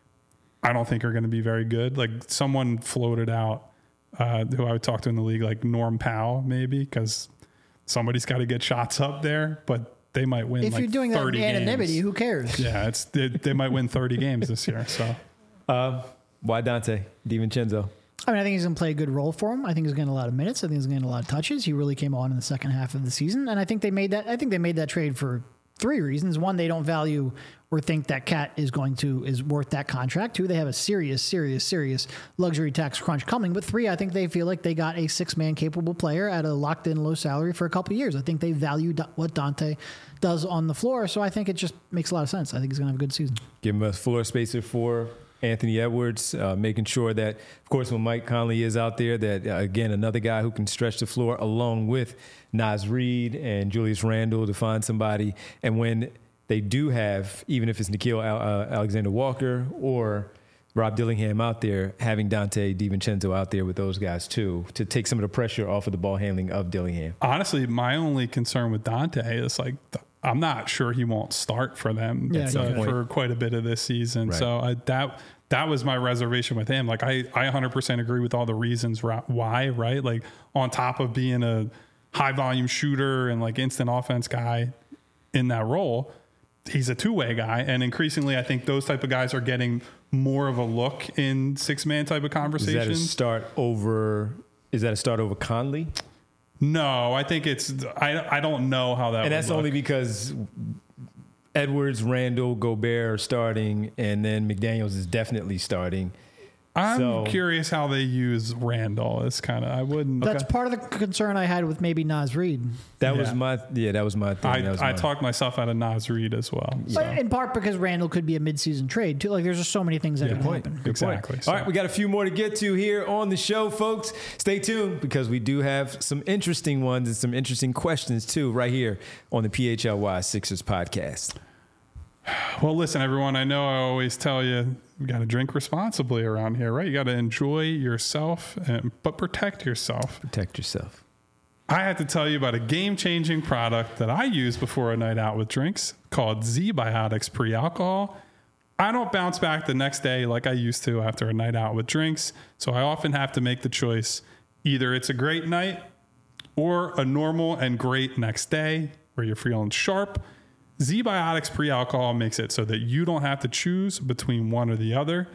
I don't think are going to be very good. Like someone floated out uh, who I would talk to in the league, like Norm Powell, maybe, because somebody's got to get shots up there, but they might win If like you're doing that in thirty anonymity, games. who cares? Yeah, it's they, they might win thirty games this year. So Um, why Dante DiVincenzo? I mean, I think he's going to play a good role for him. I think he's getting a lot of minutes. I think he's getting a lot of touches. He really came on in the second half of the season, and I think they made that. I think they made that trade for three reasons. One, they don't value or think that Cat is going to is worth that contract. Two, they have a serious, serious, serious luxury tax crunch coming. But three, I think they feel like they got a six man capable player at a locked in low salary for a couple of years. I think they value Do- what Dante does on the floor. So I think it just makes a lot of sense. I think he's going to have a good season. Give him a floor spacer for Anthony Edwards, uh, making sure that, of course, when Mike Conley is out there, that, uh, again, another guy who can stretch the floor along with Naz Reid and Julius Randle to find somebody. And when they do have, even if it's Nickeil uh, Alexander Walker or Rob Dillingham out there, having Dante DiVincenzo out there with those guys, too, to take some of the pressure off of the ball handling of Dillingham. honestly, my only concern with Dante is like, I'm not sure he won't start for them Yeah, uh, yeah. for quite a bit of this season. Right. So I, that that was my reservation with him. Like I, I one hundred percent agree with all the reasons ra- why, right? Like on top of being a high volume shooter and like instant offense guy in that role, he's a two way guy. And increasingly, I think those type of guys are getting more of a look in six man type of Is that a conversations. start over? Is that a start over Conley? No, I think it's, I, I don't know how that And would that's look. only because Edwards, Randall, Gobert are starting, and then McDaniels is definitely starting. I'm So- curious how they use Randall. It's kind of I wouldn't. That's part of the concern I had with maybe Naz Reid. That Yeah. was my yeah. That was my thing. I, that was I my- talked myself out of Naz Reid as well. So. But in part because Randall could be a midseason trade too. Like there's just so many things that Yeah. could Point. happen. Good point. Exactly. All right, we got a few more to get to here on the show, folks. Stay tuned because we do have some interesting ones and some interesting questions too, right here on the P H L Y Sixers podcast. Well, listen, everyone, I know I always tell you, you got to drink responsibly around here, right? You got to enjoy yourself, and, but protect yourself. Protect yourself. I have to tell you about a game-changing product that I use before a night out with drinks called Z-Biotics Pre-Alcohol. I don't bounce back the next day like I used to after a night out with drinks, so I often have to make the choice. Either it's a great night or a normal and great next day where you're feeling sharp. Z-Biotics Pre-Alcohol makes it so that you don't have to choose between one or the other.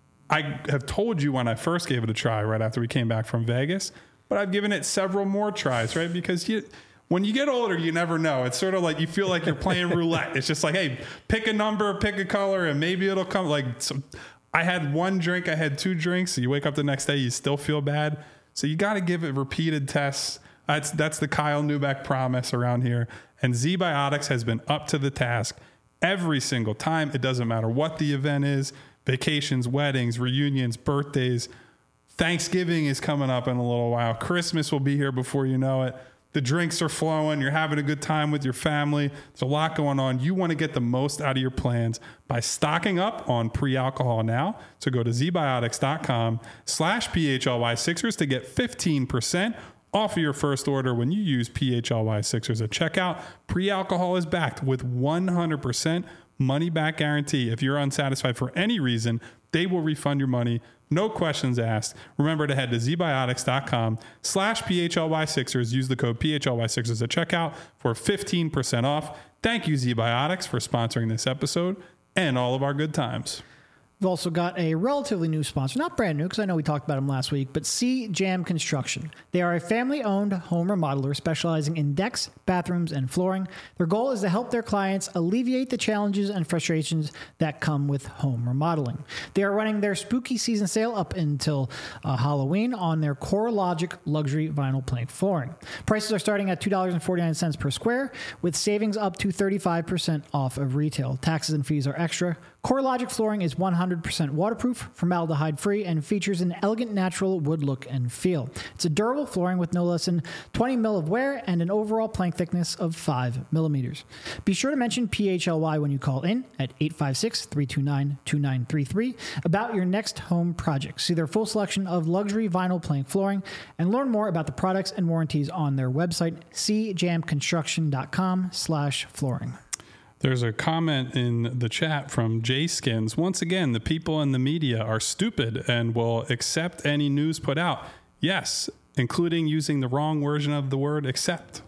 I have told you when I first gave it a try right after we came back from Vegas, but I've given it several more tries, right? Because you, when you get older, you never know. It's sort of like you feel like you're playing roulette. It's just like, hey, pick a number, pick a color, and maybe it'll come. Like some, I had one drink, I had two drinks. So you wake up the next day, you still feel bad. So you got to give it repeated tests. That's that's the Kyle Neubeck promise around here. And Z-Biotics has been up to the task every single time. It doesn't matter what the event is, vacations, weddings, reunions, birthdays. Thanksgiving is coming up in a little while. Christmas will be here before you know it. The drinks are flowing. You're having a good time with your family. There's a lot going on. You want to get the most out of your plans by stocking up on pre-alcohol now. So go to zbiotics.com slash PHLY Sixers to get fifteen percent off of your first order when you use P H L Y Sixers at checkout. Pre-alcohol is backed with one hundred percent money back guarantee. If you're unsatisfied for any reason, they will refund your money. No questions asked. Remember to head to zbiotics.com slash PHLY Sixers. Use the code P H L Y Sixers at checkout for fifteen percent off. Thank you, Z-Biotics, for sponsoring this episode and all of our good times. We've also got a relatively new sponsor, not brand new because I know we talked about them last week, but C-Jam Construction. They are a family-owned home remodeler specializing in decks, bathrooms, and flooring. Their goal is to help their clients alleviate the challenges and frustrations that come with home remodeling. They are running their spooky season sale up until uh, Halloween on their CoreLogic luxury vinyl plank flooring. Prices are starting at two dollars and forty-nine cents per square, with savings up to thirty-five percent off of retail. Taxes and fees are extra. CoreLogic flooring is one hundred percent waterproof, formaldehyde-free, and features an elegant natural wood look and feel. It's a durable flooring with no less than twenty mil of wear and an overall plank thickness of five millimeters. Be sure to mention P H L Y when you call in at eight five six, three two nine, two nine three three about your next home project. See their full selection of luxury vinyl plank flooring and learn more about the products and warranties on their website, c jam construction dot com slash flooring. There's a comment in the chat from Jay Skins. Once again, the people in the media are stupid and will accept any news put out. Yes, including using the wrong version of the word accept.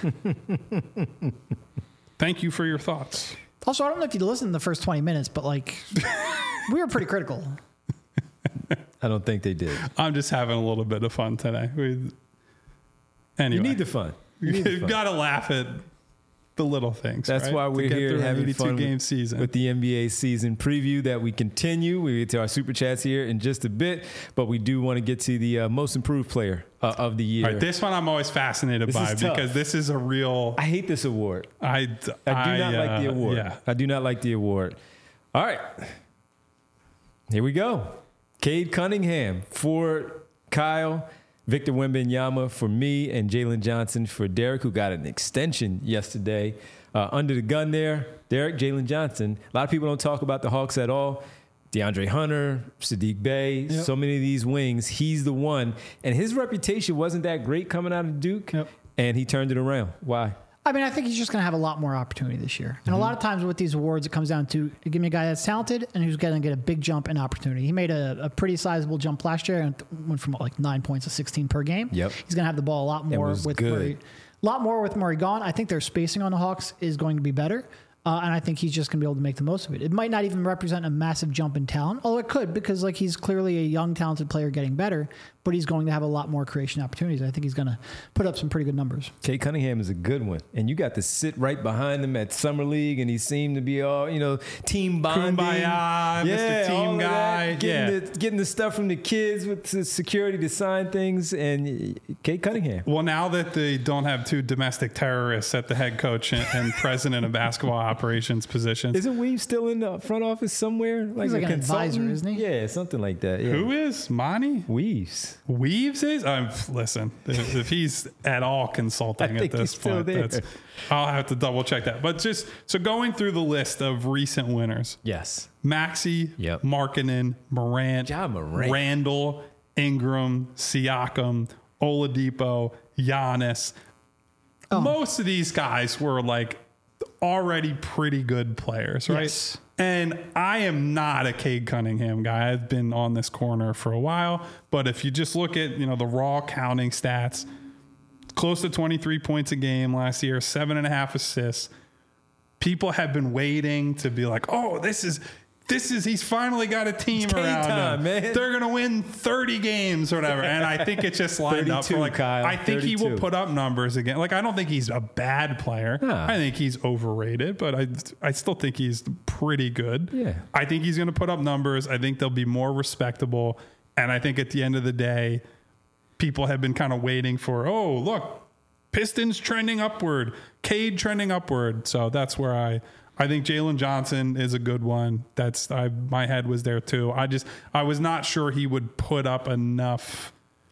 Thank you for your thoughts. Also, I don't know if you listened to the first twenty minutes, but like, we were pretty critical. I don't think they did. I'm just having a little bit of fun today. We, anyway, You need the fun. You need the you've fun. got to laugh at the little things. That's right? why To we're get here through an having eighty-two fun game with, season. with the N B A season preview that we continue. We get to our super chats here in just a bit, but we do want to get to the uh, most improved player uh, of the year. All right, this one I'm always fascinated This by is tough. because this is a real. I hate this award. I, I do not uh, like the award. Yeah. I do not like the award. All right. Here we go. Cade Cunningham for Kyle, Victor Wembanyama for me, and Jalen Johnson for Derek, who got an extension yesterday. Uh, under the gun there, Derek, Jalen Johnson. A lot of people don't talk about the Hawks at all. DeAndre Hunter, Sadiq Bey, Yep. so many of these wings. He's the one. And his reputation wasn't that great coming out of Duke, Yep. and he turned it around. Why? I mean, I think he's just going to have a lot more opportunity this year. And a lot of times with these awards, it comes down to give me a guy that's talented and who's going to get a big jump in opportunity. He made a, a pretty sizable jump last year and went from like nine points to sixteen per game. Yep. He's going to have the ball a lot more was with good. Murray. A lot more with Murray gone. I think their spacing on the Hawks is going to be better. Uh, and I think he's just going to be able to make the most of it. It might not even represent a massive jump in talent, although it could because like he's clearly a young, talented player getting better. but he's going to have a lot more creation opportunities. I think he's going to put up some pretty good numbers. Cade Cunningham is a good one. And you got to sit right behind him at Summer League, and he seemed to be all, you know, team bonding. Kumbaya, yeah, Mister Team all of Guy. that, getting, Yeah. the, getting the stuff from the kids with the security to sign things. And Cade Cunningham. Well, now that they don't have two domestic terrorists at the head coach and, and president of basketball operations positions. Isn't Weave still in the front office somewhere? He's like a an advisor, consultant? isn't he? Yeah, something like that. Yeah. Who is? Monty? Weaves. Weaves is? Um, listen, if, if he's at all consulting I at think this he's still point, there. that's, I'll have to double check that. But just so going through the list of recent winners, Yes. Maxey, Yep. Markkanen, Morant, Ja Morant. Randall, Ingram, Siakam, Oladipo, Giannis. Oh. Most of these guys were like already pretty good players, right? Yes. And I am not a Cade Cunningham guy. I've been on this corner for a while, but if you just look at, you know, the raw counting stats, close to twenty-three points a game last year, seven and a half assists. People have been waiting to be like, oh, this is this is he's finally got a team It's Cade around time, him. man. They're gonna win thirty games or whatever. And I think it just lined up for thirty-two, like Kyle, I think he will thirty-two. put up numbers again. Like I don't think he's a bad player. Nah. I think he's overrated, but I I still think he's pretty good. Yeah. I think he's gonna put up numbers. I think they'll be more respectable. And I think at the end of the day, people have been kind of waiting for, oh, look, Pistons trending upward, Cade trending upward. So that's where I I think Jalen Johnson is a good one. That's I my head was there too. I just I was not sure he would put up enough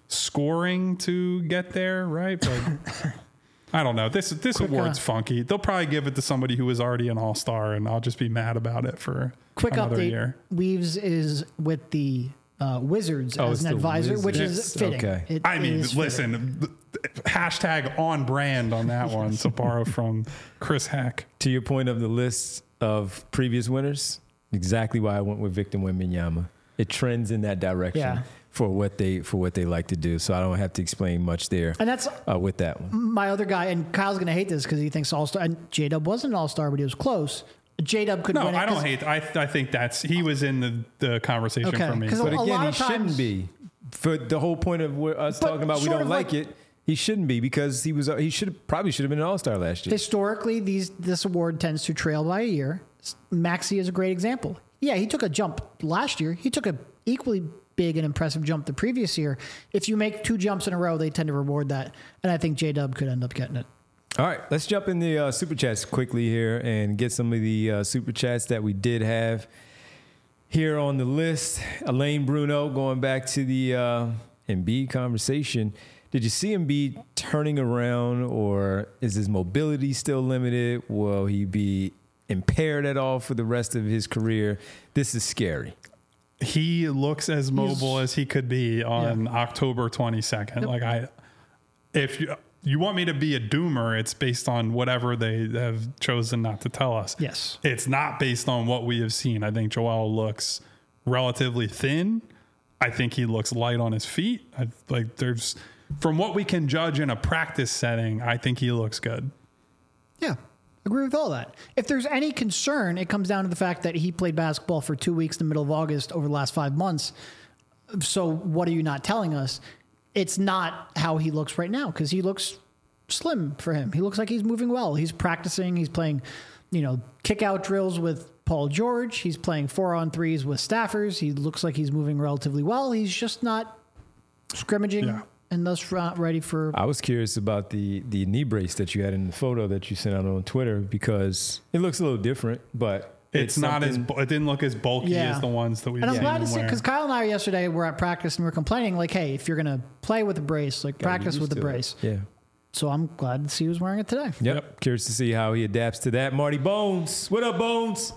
scoring to get there, right? But I don't know. This this Quick, award's uh, funky. They'll probably give it to somebody who was already an all-star, and I'll just be mad about it for Quick another update. year. Weaves is with the uh, Wizards Oh, as it's an the advisor, which is Wizards. fitting. Okay. It I mean, is fitting. listen, hashtag on brand on that one to borrow from Chris Hack. To your point of the list of previous winners, exactly why I went with Victor Wembanyama. It trends in that direction Yeah. for what they for what they like to do. So I don't have to explain much there And that's uh, with that one. my other guy, and Kyle's going to hate this because he thinks All Star. And J Dub wasn't an All Star, but he was close. J Dub could No, win it. I don't 'cause- hate. I I think that's he was in the, the conversation Okay, for me. 'cause But a again, lot he of times- shouldn't be. For the whole point of what us But talking about, we sort don't of like, like- it. He shouldn't be because he was. He should probably should have been an All Star last year. Historically, these this award tends to trail by a year. Maxey is a great example. Yeah, he took a jump last year. He took a equally big and impressive jump the previous year. If you make two jumps in a row, they tend to reward that. And I think J Dub could end up getting it. All right, let's jump in the uh, super chats quickly here and get some of the uh, super chats that we did have here on the list. Elaine Bruno, going back to the uh, Embiid conversation. Did you see Embiid turning around, or is his mobility still limited? Will he be impaired at all for the rest of his career? This is scary. He looks as mobile as he could be on October twenty-second. Like I, if you you want me to be a doomer, it's based on whatever they have chosen not to tell us. Yes. It's not based on what we have seen. I think Joel looks relatively thin. I think he looks light on his feet. I, like there's, from what we can judge in a practice setting, I think he looks good. Yeah, agree with all that. If there's any concern, it comes down to the fact that he played basketball for two weeks in the middle of August over the last five months. So what are you not telling us? It's not how he looks right now because he looks slim for him. He looks like he's moving well. He's practicing. He's playing, you know, kick out drills with Paul George. He's playing four on threes with staffers. He looks like he's moving relatively well. He's just not scrimmaging Yeah. and thus not ready for. I was curious about the the knee brace that you had in the photo that you sent out on Twitter because it looks a little different, but It's, not as something- bu- it didn't look as bulky Yeah. as the ones that we've And I'm seen glad him to see wear. because Kyle and I yesterday were at practice and we were complaining like, hey, if you're gonna play with a brace, like Gotta get practice used with the to it. brace. Yeah. So I'm glad to see he was wearing it today. Yep. Yep. Curious to see how he adapts to that. Marty Bones. What up, Bones?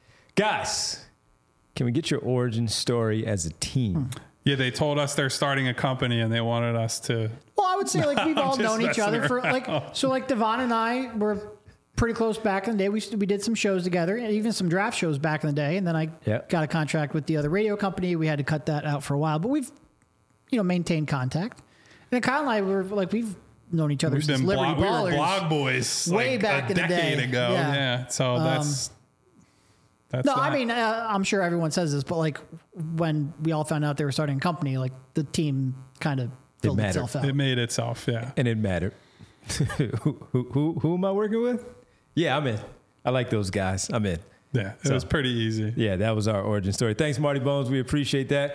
Guys, can we get your origin story as a team? Yeah, they told us they're starting a company and they wanted us to. Well, I would say like we've all just known each messing other for like so like Devon and I were pretty close back in the day. We we did some shows together, and even some draft shows back in the day. And then I Yep. got a contract with the other radio company. We had to cut that out for a while, but we've you know maintained contact. And then Kyle and I were like we've known each other We've since been Liberty blog, we Ballers. were blog boys Way like back a in the decade day. ago. Yeah. Yeah. So that's That's No, that. I mean, uh, I'm sure everyone says this, but like when we all found out they were starting a company, like the team kind of filled mattered. itself out. It made itself, yeah. And it mattered. who, who, who, who am I working with? Yeah, I'm in. I like those guys. I'm in. Yeah, it So- was pretty easy. Yeah, that was our origin story. Thanks, Marty Bones. We appreciate that.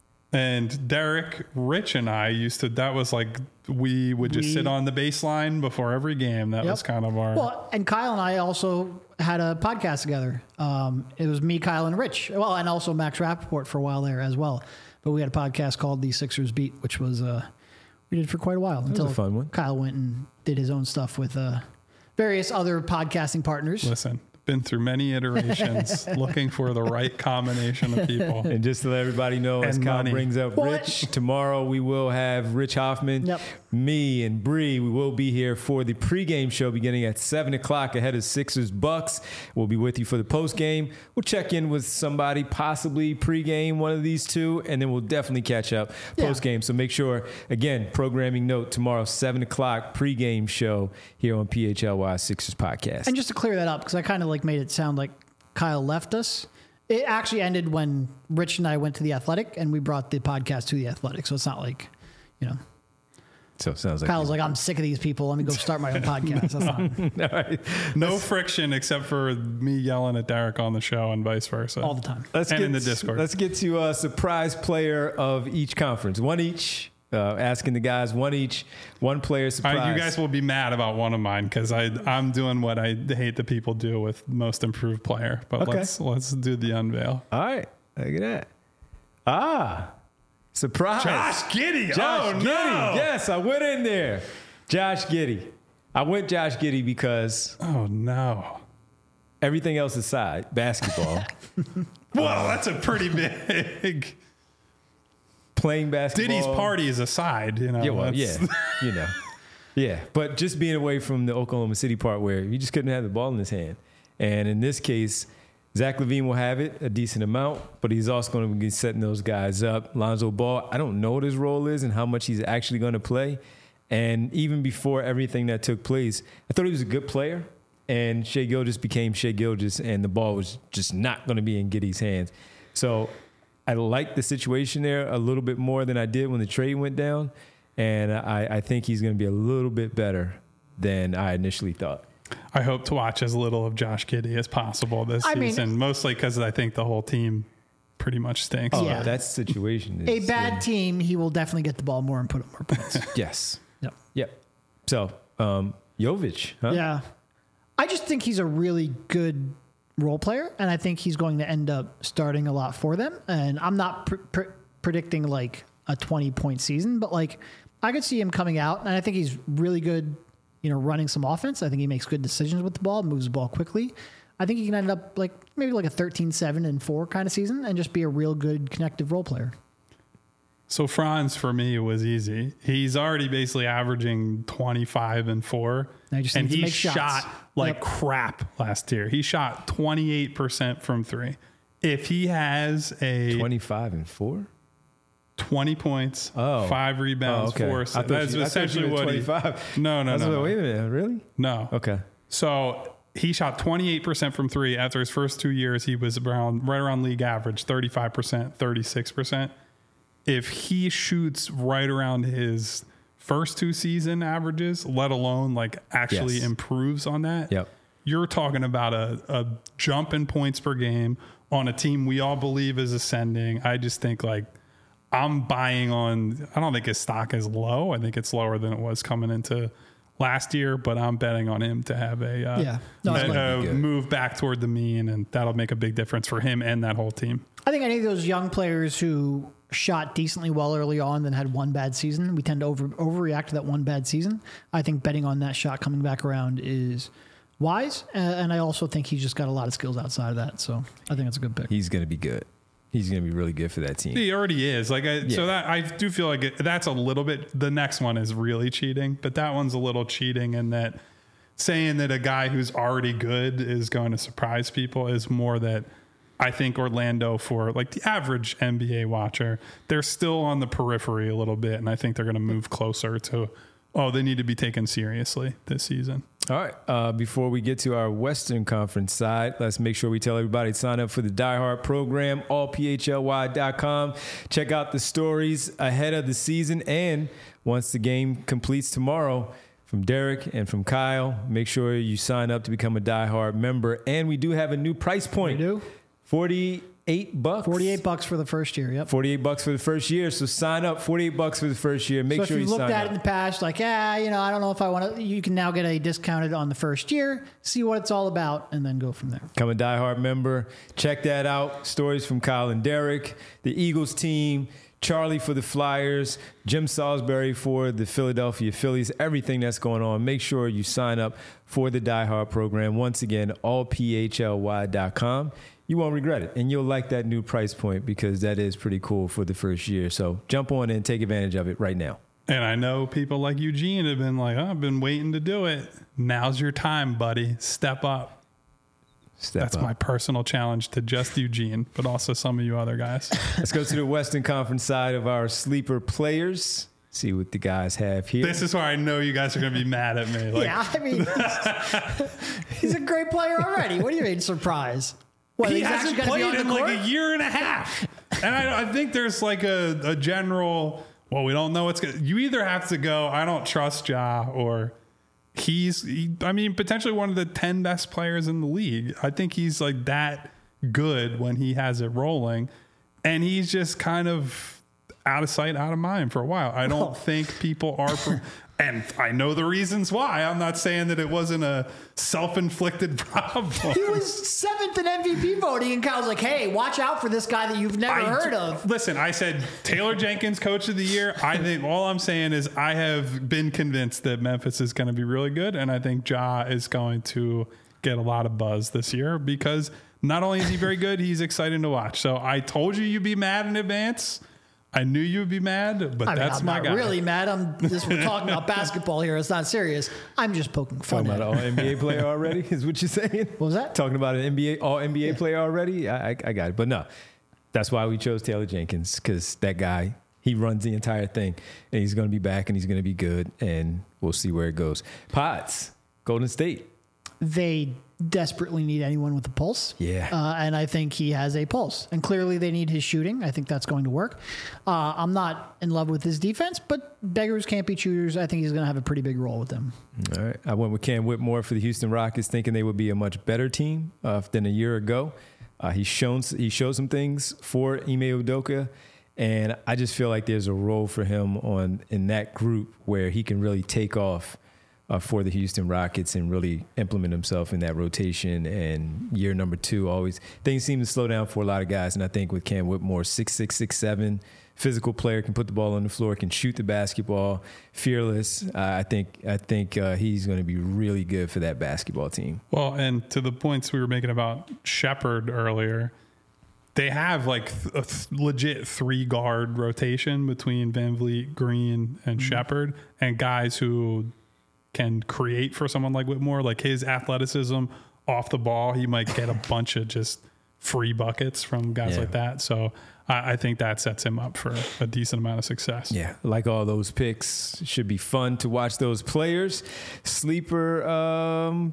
And Derek, Rich, and I used to, that was like, we would just We- sit on the baseline before every game. That Yep. was kind of our. Well, and Kyle and I also had a podcast together. Um, it was me, Kyle, and Rich. Well, and also Max Rappaport for a while there as well. But we had a podcast called The Sixers Beat, which was uh, we did for quite a while was until a fun one. Kyle went and did his own stuff with uh, various other podcasting partners. Listen, been through many iterations looking for the right combination of people. And just to let everybody know, as And Kyle money. brings up What? Rich, tomorrow we will have Rich Hoffman, Yep. me, and Bree. We will be here for the pregame show beginning at seven o'clock ahead of Sixers Bucks. We'll be with you for the postgame. We'll check in with somebody, possibly pregame, one of these two, and then we'll definitely catch up Yeah. postgame. So make sure, again, programming note, tomorrow, seven o'clock pregame show here on P H L Y Sixers Podcast. And just to clear that up, because I kind of like made it sound like Kyle left us. It actually ended when Rich and I went to the Athletic, and we brought the podcast to the Athletic. So it's not like, you know, so it sounds like Kyle's like, I'm sick of these people. Let me go start my own podcast. That's not all right. No friction except for me yelling at Derek on the show and vice versa. all the time. Let's And get in the Discord. Let's get to a surprise player of each conference. One each. Uh, asking the guys one each, one player All surprise. right, you guys will be mad about one of mine because I I'm doing what I hate the people do with most improved player. But Okay. let's let's do the unveil. All right, look at that. Ah, surprise! Giddy. Josh Giddey. Yes, I went in there. Josh Giddey. I went Josh Giddey because Oh no. everything else aside, basketball, Well, that's a pretty big. playing basketball. Diddy's party is aside, you know. Yeah, well, yeah, that's- you know, yeah. But just being away from the Oklahoma City part where you just couldn't have the ball in his hand, and in this case, Zach LaVine will have it a decent amount, but he's also going to be setting those guys up. Lonzo Ball, I don't know what his role is and how much he's actually going to play. And even before everything that took place, I thought he was a good player. And Shai Gilgeous became Shai Gilgeous, and the ball was just not going to be in Giddey's hands. So I like the situation there a little bit more than I did when the trade went down. And I, I think he's going to be a little bit better than I initially thought. I hope to watch as little of Josh Giddey as possible this I mean- season, mostly because I think the whole team pretty much stinks. Oh, Yeah. that situation A is bad uh, team, he will definitely get the ball more and put up more points. yes. Yep. Yep. So, um, Jovic, huh? Yeah. I just think he's a really good role player, and I think he's going to end up starting a lot for them. And I'm not pr- pr- predicting like a twenty point season, but like I could see him coming out, and I think he's really good, you know, running some offense. I think he makes good decisions with the ball, moves the ball quickly. I think he can end up like maybe like a thirteen seven and four kind of season and just be a real good connective role player. So Franz for me was easy. He's already basically averaging twenty-five and four. Now he just and needs to he make shots. shot like Yep. crap last year. He shot twenty-eight percent from three. If he has a twenty-five and four. twenty points, Oh. five rebounds, Oh, okay. four I assists. thought That's you- I thought essentially you were what he. twenty-five. No, no, I was no, like, no. wait a minute, really? No. Okay. So he shot twenty-eight percent from three. After his first two years, he was around right around league average, thirty-five percent, thirty-six percent. If he shoots right around his first two season averages, let alone like actually Yes. improves on that, Yep. you're talking about a, a jump in points per game on a team we all believe is ascending. I just think like I'm buying on, I don't think his stock is low. I think it's lower than it was coming into last year, but I'm betting on him to have a, uh, Yeah. No, it's a- gonna a be good. move back toward the mean, and that'll make a big difference for him and that whole team. I think any of those young players who shot decently well early on, then had one bad season, we tend to over overreact to that one bad season. I think betting on that shot coming back around is wise, uh, and I also think he's just got a lot of skills outside of that. So I think it's a good pick. He's going to be good. He's going to be really good for that team. He already is. Like, I, so Yeah. that I do feel like it, that's a little bit. The next one is really cheating, but that one's a little cheating in that saying that a guy who's already good is going to surprise people is more that I think Orlando, for like the average N B A watcher, they're still on the periphery a little bit, and I think they're going to move closer to oh, they need to be taken seriously this season. All right. Uh, before we get to our Western Conference side, let's make sure we tell everybody to sign up for the Die Hard program, all p h l y dot com. Check out the stories ahead of the season. And once the game completes tomorrow, from Derek and from Kyle, make sure you sign up to become a Die Hard member. And we do have a new price point. We do? forty-eight bucks. forty-eight bucks for the first year. Yep. forty-eight bucks for the first year. So sign up. forty-eight bucks for the first year. Make so sure if you you've sign looked up. at it in the past, like, yeah, you know, I don't know if I want to, you can now get a discounted on the first year, see what it's all about, and then go from there. Become a Die Hard member. Check that out. Stories from Kyle and Derek, the Eagles team, Charlie for the Flyers, Jim Salisbury for the Philadelphia Phillies, everything that's going on. Make sure you sign up for the Die Hard program. Once again, all p h l y dot com. You won't regret it, and you'll like that new price point because that is pretty cool for the first year. So jump on and take advantage of it right now. And I know people like Eugene have been like, oh, I've been waiting to do it. Now's your time, buddy. Step up. Step That's up. my personal challenge to just Eugene, but also some of you other guys. Let's go to the Western Conference side of our sleeper players. See what the guys have here. This is where I know you guys are going to be mad at me. Like, yeah, I mean, he's a great player already. What do you mean, surprise? What, he he's hasn't actually played gonna be on in the like court? a year and a half. And I, I think there's like a, a general, well, we don't know what's going to, you either have to go, I don't trust Ja, or he's, he, I mean, potentially one of the ten best players in the league. I think he's like that good when he has it rolling. And he's just kind of out of sight, out of mind for a while. I don't Oh. think people are, pro- and I know the reasons why. I'm not saying that it wasn't a self-inflicted problem. He was seventh in M V P voting, and Kyle's like, hey, watch out for this guy that you've never I heard d- of. Listen, I said Taylor Jenkins, coach of the year. I think all I'm saying is I have been convinced that Memphis is going to be really good, and I think Ja is going to get a lot of buzz this year because not only is he very good, he's exciting to watch. So I told you you'd be mad in advance. I knew you'd be mad, but I mean, that's I'm my not guy. really mad. I'm just we're talking about basketball here. It's not serious. I'm just poking fun Talking at about it. an all N B A player already is what you're saying? What was that? Talking about an N B A all N B A player already? I, I, I got it. But no, that's why we chose Taylor Jenkins because that guy, he runs the entire thing. And he's going to be back and he's going to be good. And we'll see where it goes. Pods, Golden State. They desperately need anyone with a pulse. Yeah. Uh, and I think he has a pulse. And clearly they need his shooting. I think that's going to work. Uh, I'm not in love with his defense, but beggars can't be choosers. I think he's going to have a pretty big role with them. All right. I went with Cam Whitmore for the Houston Rockets, thinking they would be a much better team uh, than a year ago. Uh, he's shown he showed some things for Ime Udoka, and I just feel like there's a role for him on in that group where he can really take off uh, for the Houston Rockets and really implement himself in that rotation. And year number two, always things seem to slow down for a lot of guys, and I think with Cam Whitmore, six six, six seven. Physical player, can put the ball on the floor, can shoot the basketball, fearless. Uh, I think I think uh, he's going to be really good for that basketball team. Well, and to the points we were making about Shepherd earlier, they have like th- a th- legit three guard rotation between Van Vliet, Green, and mm-hmm. Shepherd, and guys who can create for someone like Whitmore. Like his athleticism off the ball, he might get a bunch of just free buckets from guys Yeah. like that. So I, I think that sets him up for a decent amount of success. Yeah, like all those picks, should be fun to watch those players. Sleeper um,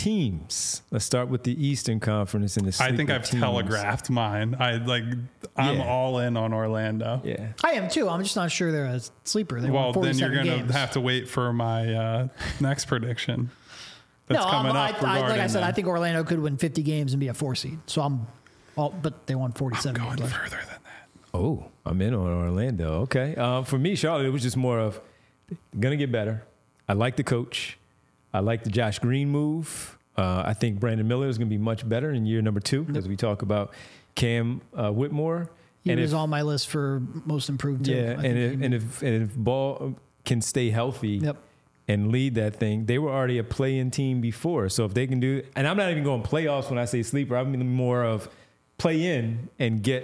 teams. Let's start with the Eastern Conference and the sleeper I think I've teams. telegraphed mine. I like. I'm Yeah. all in on Orlando. Yeah. I am too. I'm just not sure they're a sleeper. They Well, won then you're forty-seven going games. to have to wait for my uh, next prediction. That's no, coming I'm, I, up. I, like I regarding said, them. I think Orlando could win fifty games and be a four seed. So I'm, all, but they won forty-seven going games. further than that. Oh, I'm in on Orlando. Okay. Um, for me, Charlotte, it was just more of going to get better. I like the coach. I like the Josh Green move. Uh, I think Brandon Miller is going to be much better in year number two as we talk about Cam uh, Whitmore. He and was if, on my list for most improved. Too. yeah, I think and if, he- and if and if Ball can stay healthy Yep. and lead that thing, they were already a play-in team before. So if they can do, and I'm not even going playoffs when I say sleeper, I mean more of play in and get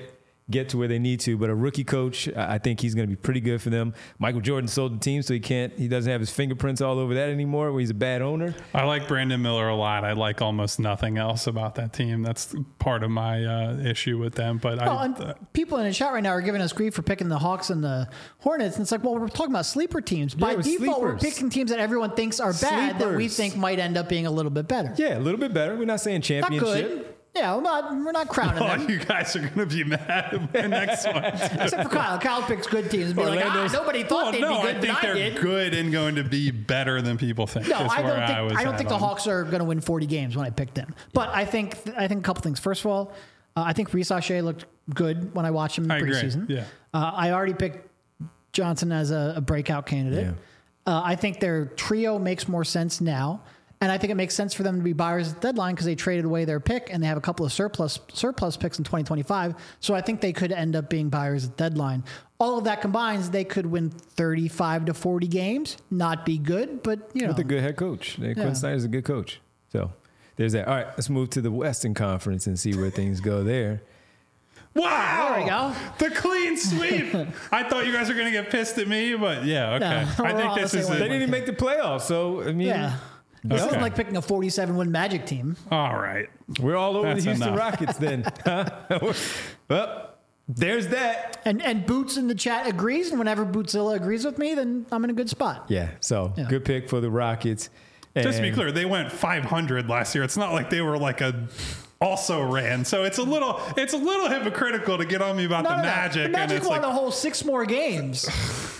get to where they need to. But a rookie coach, I think he's going to be pretty good for them. Michael Jordan sold the team, so he can't. He doesn't have his fingerprints all over that anymore. Where he's a bad owner. I like Brandon Miller a lot. I like almost nothing else about that team. That's part of my uh, issue with them. But well, I, and uh, people in the chat right now are giving us grief for picking the Hawks and the Hornets, and it's like, well, we're talking about sleeper teams. By we're default, we're sleepers. picking teams that everyone thinks are bad that we Sleepers. think might end up being a little bit better. Yeah, a little bit better. We're not saying Not championship. good. Yeah, we're not, we're not crowning oh, them. you guys are going to be mad at the next one. Except for Kyle. Kyle picks good teams and be like, ah, Orlando's- nobody thought Well, they'd no, be good, I think but they're I did. good and going to be better than people think. No, is I where don't think I, was I don't at think the on. Hawks are going to win forty games when I picked them. But I think I think a couple things. First of all, uh, I think Reece Shea looked good when I watched him in the I agree. preseason. Yeah. Uh, I already picked Johnson as a, a breakout candidate. Yeah. Uh, I think their trio makes more sense now. And I think it makes sense for them to be buyers at the deadline because they traded away their pick and they have a couple of surplus surplus picks in twenty twenty-five. So I think they could end up being buyers at the deadline. All of that combines, they could win thirty-five to forty games. Not be good, but you know. With a good head coach. Quinn Yeah. Snyder's a good coach. So there's that. All right, let's move to the Western Conference and see where things go there. Wow. There we go. The clean sweep. I thought you guys were going to get pissed at me, but yeah, okay. No, I we're think all this the is same it. They didn't even make the playoffs, so I mean, Yeah. This Okay. isn't like picking a forty-seven win Magic team. All right. we're all over That's the Houston enough. Rockets then. Well, there's that. And and Boots in the chat agrees, and whenever Bootzilla agrees with me, then I'm in a good spot. Yeah, so Yeah. good pick for the Rockets. Just to be And- clear, they went five hundred last year. It's not like they were like a also ran. So it's a little it's a little hypocritical to get on me about No, the no, no. Magic. The and Magic it's won like a whole six more games.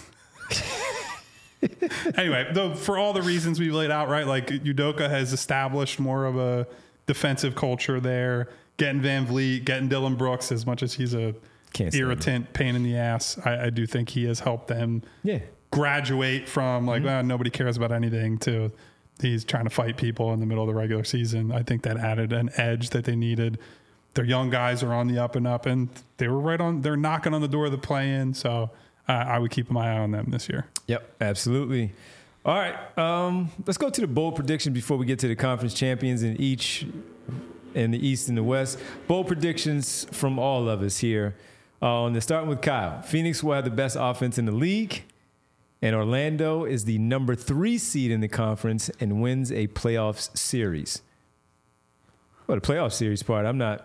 anyway, though, for all the reasons we've laid out, right? Like Udoka has established more of a defensive culture there. Getting Van Vliet, getting Dylan Brooks, as much as he's a Can't stand irritant, pain in the ass, I, I do think he has helped them Yeah. graduate from like, well, nobody cares about anything to he's trying to fight people in the middle of the regular season. I think that added an edge that they needed. Their young guys are on the up and up, and they were right on. They're knocking on the door of the play-in, so uh, I would keep my eye on them this year. Yep, absolutely. All right, um, let's go to the bold prediction before we get to the conference champions in each in the East and the West. Bold predictions from all of us here. Uh, on the starting with Kyle, Phoenix will have the best offense in the league, and Orlando is the number three seed in the conference and wins a playoffs series. Well, the playoff series part, I'm not.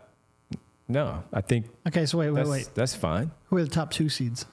No, I think Okay, so wait, wait, that's, wait. that's fine. Who are the top two seeds?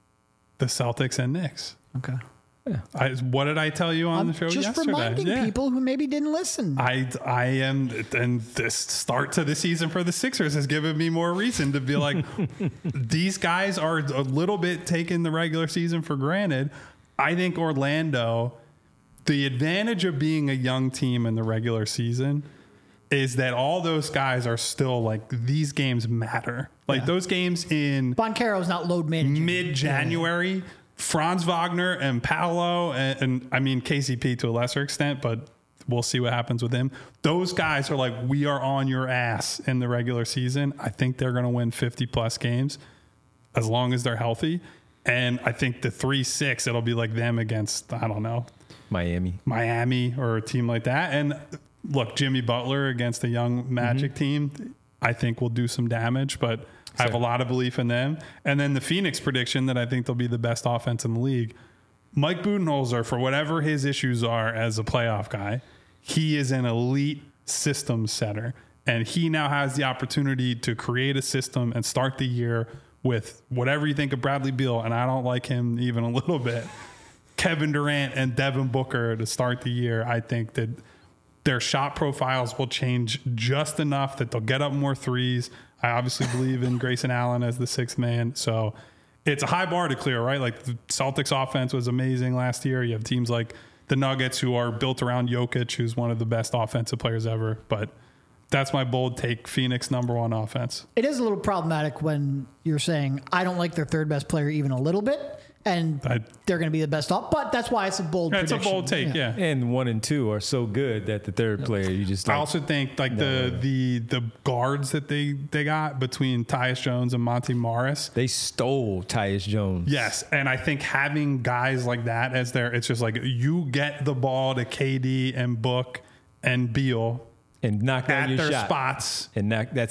The Celtics and Knicks. Okay. I, what did I tell you on I'm the show just yesterday? reminding Yeah. people who maybe didn't listen. I, I am, and this start to the season for the Sixers has given me more reason to be like, these guys are a little bit taking the regular season for granted. I think Orlando, the advantage of being a young team in the regular season is that all those guys are still like, these games matter. Like Yeah. those games in Boncaro's not load managing. mid-January, Franz Wagner and Paolo, and, and I mean K C P to a lesser extent, but we'll see what happens with him. Those guys are like, we are on your ass in the regular season. I think they're going to win fifty plus games as long as they're healthy. And I think the three six, it'll be like them against, I don't know, Miami. Miami or a team like that. And look, Jimmy Butler against a young Magic team, I think will do some damage, but I have a lot of belief in them. And then the Phoenix prediction that I think they'll be the best offense in the league. Mike Budenholzer, for whatever his issues are as a playoff guy, he is an elite system setter. And he now has the opportunity to create a system and start the year with whatever you think of Bradley Beal, and I don't like him even a little bit, Kevin Durant and Devin Booker to start the year. I think that their shot profiles will change just enough that they'll get up more threes. I obviously believe in Grayson Allen as the sixth man. So it's a high bar to clear, right? Like the Celtics offense was amazing last year. You have teams like the Nuggets who are built around Jokic, who's one of the best offensive players ever. But that's my bold take. Phoenix number one offense. It is a little problematic when you're saying, I don't like their third best player even a little bit, and I- they're going to be the best off. But that's why it's a bold That's a prediction. bold take, yeah. And one and two are so good that the third player, you just I like, also think like the the the guards that they they got between Tyus Jones and Monty Morris. they stole Tyus Jones. Yes, and I think having guys like that as their, it's just like you get the ball to K D and Book and Beal And knock down at your their shot. spots. And knock, that's it.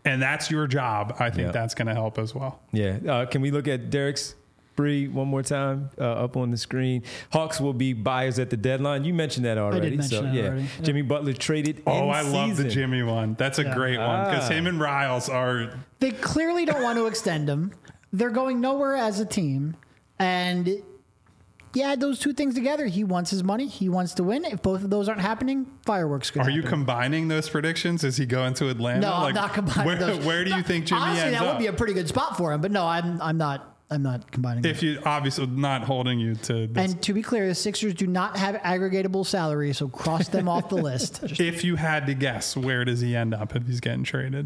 and that's your job, I think Yeah. that's going to help as well. Yeah. Uh, can we look at Derek's Bree one more time uh, up on the screen? Hawks will be buyers at the deadline. You mentioned that already. mention so that yeah, already. Yeah. Jimmy Butler traded. Oh, in I love the season. Jimmy one. That's a Yeah. great one because Ah. him and Riles are. They clearly don't want to extend him. They're going nowhere as a team. And you add those two things together. He wants his money. He wants to win. If both of those aren't happening, fireworks could Are happen. you combining those predictions? Is he going to Atlanta? No, Like, I'm not combining where, those. Where do you think Jimmy Honestly, ends that up? would be a pretty good spot for him. But no, I'm I'm not I'm not combining if them. you obviously not holding you to this. And to be clear, the Sixers do not have aggregatable salary, so cross them off the list. Just- if you had to guess, where does he end up if he's getting traded?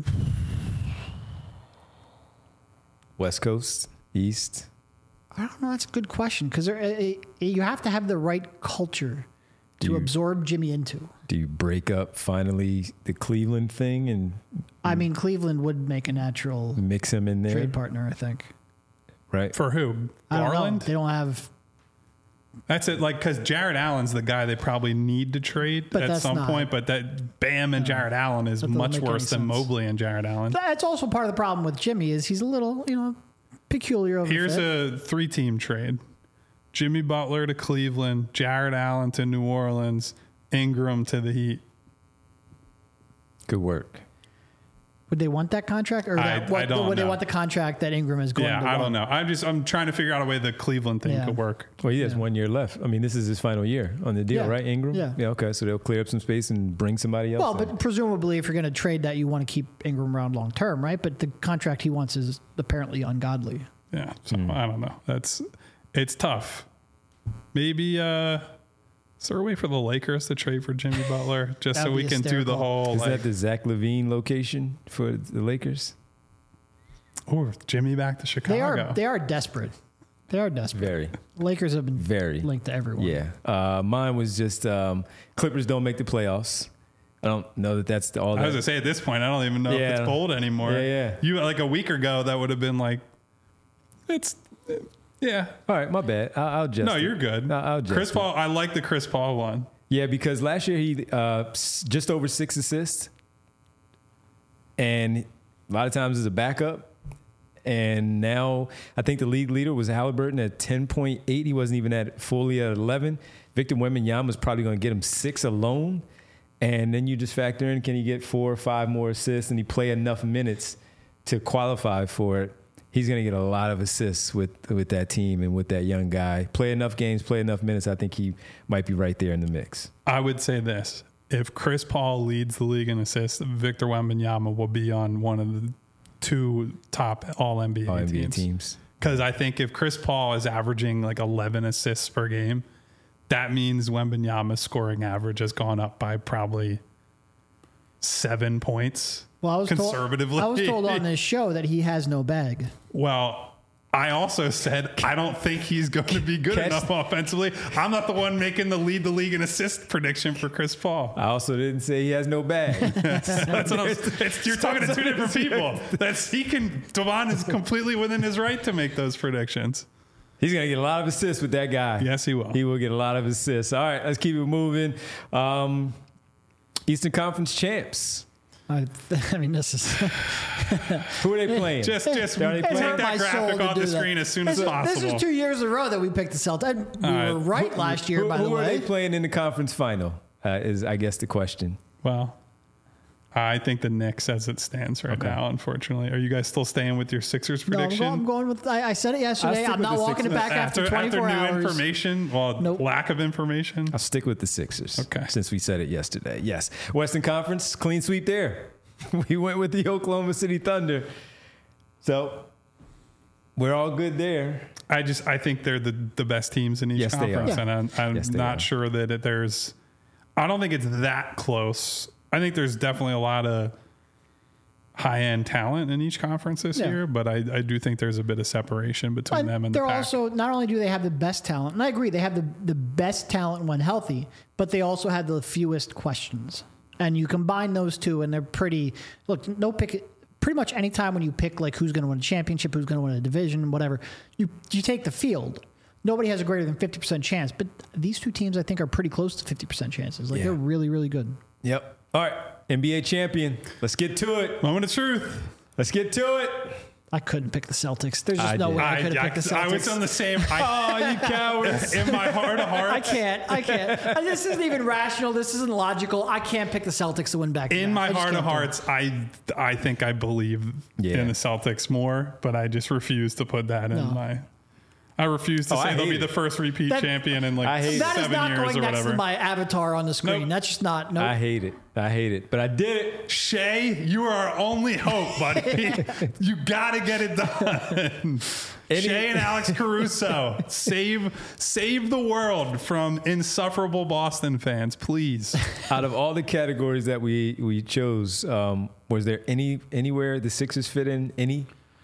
West Coast, East. I don't know. That's a good question because you have to have the right culture to Do you- absorb Jimmy into. Do you break up finally the Cleveland thing and I mean, Cleveland would make a natural mix him in there? trade partner, I think. Right. For who? I don't know. Garland? They don't have. That's it. Like, because Jared Allen's the guy they probably need to trade But at that's some not- point. But that Bam and Jared Allen is That doesn't much make any worse than sense. Mobley and Jared Allen. That's also part of the problem with Jimmy is he's a little, you know, peculiar. Of Here's fit. a three-team trade: Jimmy Butler to Cleveland, Jared Allen to New Orleans, Ingram to the Heat. Good work. Would they want that contract, or I- that, what, I don't would they know. want the contract that Ingram is going Yeah, to I want? don't know. I'm just I'm trying to figure out a way the Cleveland thing Yeah. could work. Well, he has one year left. I mean, this is his final year on the deal, Yeah. right, Ingram? Yeah. Yeah. Okay. So they'll clear up some space and bring somebody else. Well, in. but presumably, if you're going to trade that, you want to keep Ingram around long term, right? But the contract he wants is apparently ungodly. Yeah, so Hmm. I don't know. That's it's tough. Maybe uh is there a way for the Lakers to trade for Jimmy Butler just so That'd we be can do the hysterical. whole is like, that the Zach LaVine location for the Lakers? oh, Jimmy back to Chicago? They are they are desperate. They are desperate. Very, Lakers have been very. linked to everyone. Yeah. Uh, mine was just um, Clippers don't make the playoffs. I don't know that that's the, all I was that. gonna say at this point, I don't even know if Yeah. it's bold anymore. Yeah, yeah. You like a week ago that would have been like, it's yeah. All right, my bad. I'll, I'll just. No, you're good. I'll, I'll adjust Chris it. Paul, I like the Chris Paul one. Yeah, because last year he uh, s- just over six assists, and a lot of times as a backup. And now I think the league leader was Halliburton at ten point eight. He wasn't even at fully at eleven. Victor Wembanyama was probably going to get him six alone. And then you just factor in, can he get four or five more assists, and he play enough minutes to qualify for it? He's going to get a lot of assists with with that team and with that young guy. Play enough games, play enough minutes. I think he might be right there in the mix. I would say this: if Chris Paul leads the league in assists, Victor Wembanyama will be on one of the two top All N B A All N B A teams. teams. Because I think if Chris Paul is averaging like eleven assists per game, that means Wembanyama's scoring average has gone up by probably seven points. Well, I was conservatively. Told, I was told on this show that he has no bag. Well, I also said I don't think he's going to be good Catch- enough offensively. I'm not the one making the lead the league in assist prediction for Chris Paul. I also didn't say he has no bag. That's what I'm, it's, you're talking to two different people. That's he can. Devon is completely within his right to make those predictions. He's going to get a lot of assists with that guy. Yes, he will. He will get a lot of assists. All right, let's keep it moving. Um, Eastern Conference champs. I, I mean, this is Who are they playing? Just, just They're already take playing. hurt my that soul graphic to off do the that. screen as soon as This is- possible. This is two years in a row that we picked the Celtics. We All were right. right last year, who by who the are way. they playing in the conference final? Uh, is I guess the question. Well, I think the Knicks as it stands right Okay. now. Unfortunately, are you guys still staying with your Sixers No, I'm prediction? going, I'm going with. I, I said it yesterday. stick I'm with not the walking it Sixers. back after, after, twenty-four after new hours. information, well, Nope. lack of information. I'll stick with the Sixers. Okay. Since we said it yesterday. Yes. Western Conference, clean sweep there. We went with the Oklahoma City Thunder. So we're all good there. I just I think they're the, the best teams in each Yes, they conference, are. and I'm, I'm Yes, they not are. sure that it, there's. I don't think it's that close. I think there's definitely a lot of high end talent in each conference this Yeah. year, but I, I do think there's a bit of separation between And them and the they're pack. also not only do they have the best talent, and I agree they have the, the best talent when healthy, but they also have the fewest questions. And you combine those two, and they're pretty. Look, no pick. Pretty much any time when you pick like who's going to win a championship, who's going to win a division, whatever, you you take the field. Nobody has a greater than fifty percent chance, but these two teams I think are pretty close to fifty percent chances. Like Yeah. they're really really good. Yep. All right. N B A champion. Let's get to it. Moment of truth. Let's get to it. I couldn't pick the Celtics. There's just I no did. way I, I, could have I, picked the Celtics. I was on the same. I, Oh, you cowards. in my heart of hearts. I can't. I can't. And this isn't even rational. This isn't logical. I can't pick the Celtics to win back. In my I just heart of can't do it. hearts, I I think I believe Yeah. in the Celtics more, but I just refuse to put that in No. my. I refuse to Oh, I say they'll hate be it. the first repeat That- champion in I like hate it. That is seven not years going or next whatever. to my avatar on the screen. Nope. That's just not. No. I hate it. I hate it. But I did it. Shay, you are our only hope, buddy. You got to get it done. Any- Shay and Alex Caruso, save save the world from insufferable Boston fans, please. Out of all the categories that we we chose, um, was there any anywhere the Sixers fit in? Any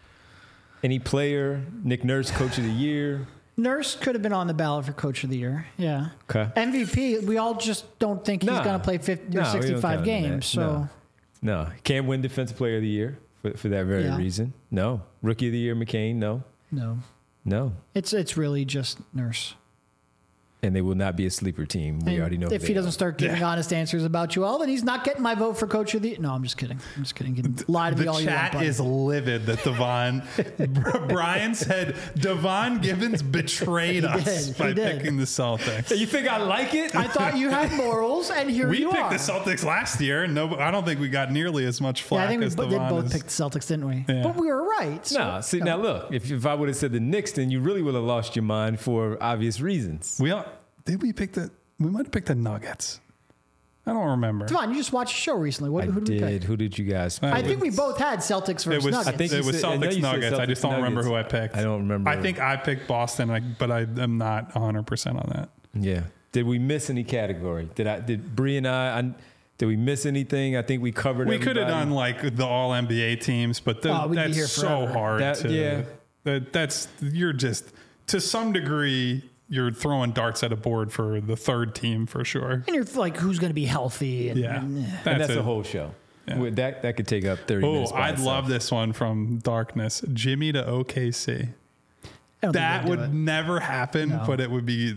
any player? Nick Nurse, Coach of the Year. Nurse could have been on the ballot for Coach of the Year. Yeah. Okay. M V P. We all just don't think he's Nah. going to play fifty No, or we don't sixty-five count him in games. that. So No, can't win Defensive Player of the Year for, for that very Yeah. reason. No, Rookie of the Year, McCain. No, no, no, it's it's really just Nurse. and they will not be a sleeper team. We And already know. who if they he doesn't are. start giving Yeah. honest answers about Joel, then he's not getting my vote for Coach of the. No, I'm just kidding. I'm just kidding. You can lie to me The all you want. chat buddy. is livid that Devon Brian said Devon Givens betrayed us did. He by did. picking the Celtics. You think I like it? I thought you had morals, and here We you picked are. the Celtics last year. No, I don't think we got nearly as much Yeah, flack I think we as bo- did Devon. both is. pick the Celtics, didn't we? Yeah. But we were right. so- No, see now look. If if I would have said the Knicks, then you really would have lost your mind for obvious reasons. We all, did we pick the? We might have picked the Nuggets. I don't remember. Come on, you just watched a show recently. What, I who did we pick? did. Who did you guys? Pick? I think we both had Celtics versus It was. Nuggets. I think it you was said- I know Celtics you said Nuggets. I just Celtics don't remember Nuggets. who I picked. I don't remember. I think I picked Boston, I- but I am not one hundred percent on that. Yeah. Did we miss any category? Did I? Did Bree and I? I did we miss anything? I think we covered. We could have everybody. done like the All N B A teams, but the, Oh, we'd be that's here so forever. hard. That- to, yeah. that, that's you're just to some degree you're throwing darts at a board for the third team for sure. and you're like, who's going to be healthy? And, Yeah, and, eh. And that's it. a whole show. With That that could take up thirty Oh, minutes. by I'd itself. love this one from Darkness. Jimmy to O K C. I don't think That they'd do would it. never happen, No. but it would be.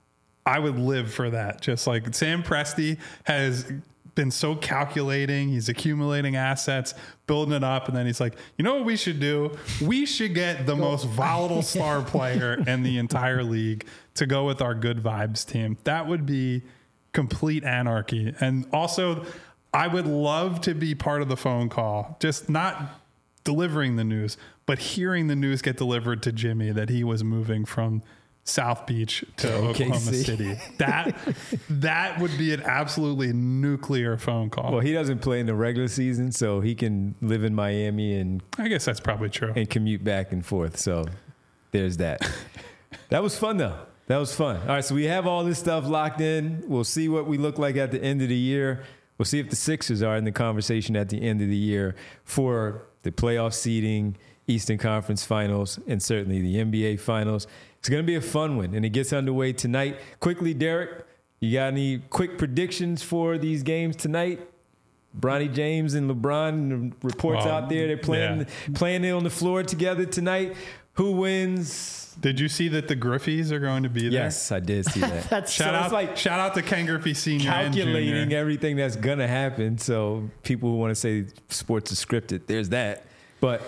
I would live for that. Just like Sam Presti has been so calculating. He's accumulating assets, building it up, and then he's like, you know what we should do? We should get the most volatile star player in the entire league to go with our good vibes team. That would be complete anarchy. And also, I would love to be part of the phone call, just not delivering the news, but hearing the news get delivered to Jimmy that he was moving from South Beach to O K C. Oklahoma City. That that would be an absolutely nuclear phone call. Well, he doesn't play in the regular season, so he can live in Miami and I guess that's probably true. and commute back and forth. So there's that. That was fun though. That was fun. All right, so we have all this stuff locked in. We'll see what we look like at the end of the year. We'll see if the Sixers are in the conversation at the end of the year for the playoff seeding, Eastern Conference Finals, and certainly the N B A Finals. It's going to be a fun one, and it gets underway tonight. Quickly, Derek, you got any quick predictions for these games tonight? Bronny James and LeBron, and the reports Well, out there, they're playing yeah. playing it on the floor together tonight. Who wins? Did you see that the Griffeys are going to be there? Yes, I did see that. That's Shout So out, it's like shout out to Ken Griffey Senior and calculating Junior. everything that's gonna happen. So people who want to say sports is scripted, there's that. But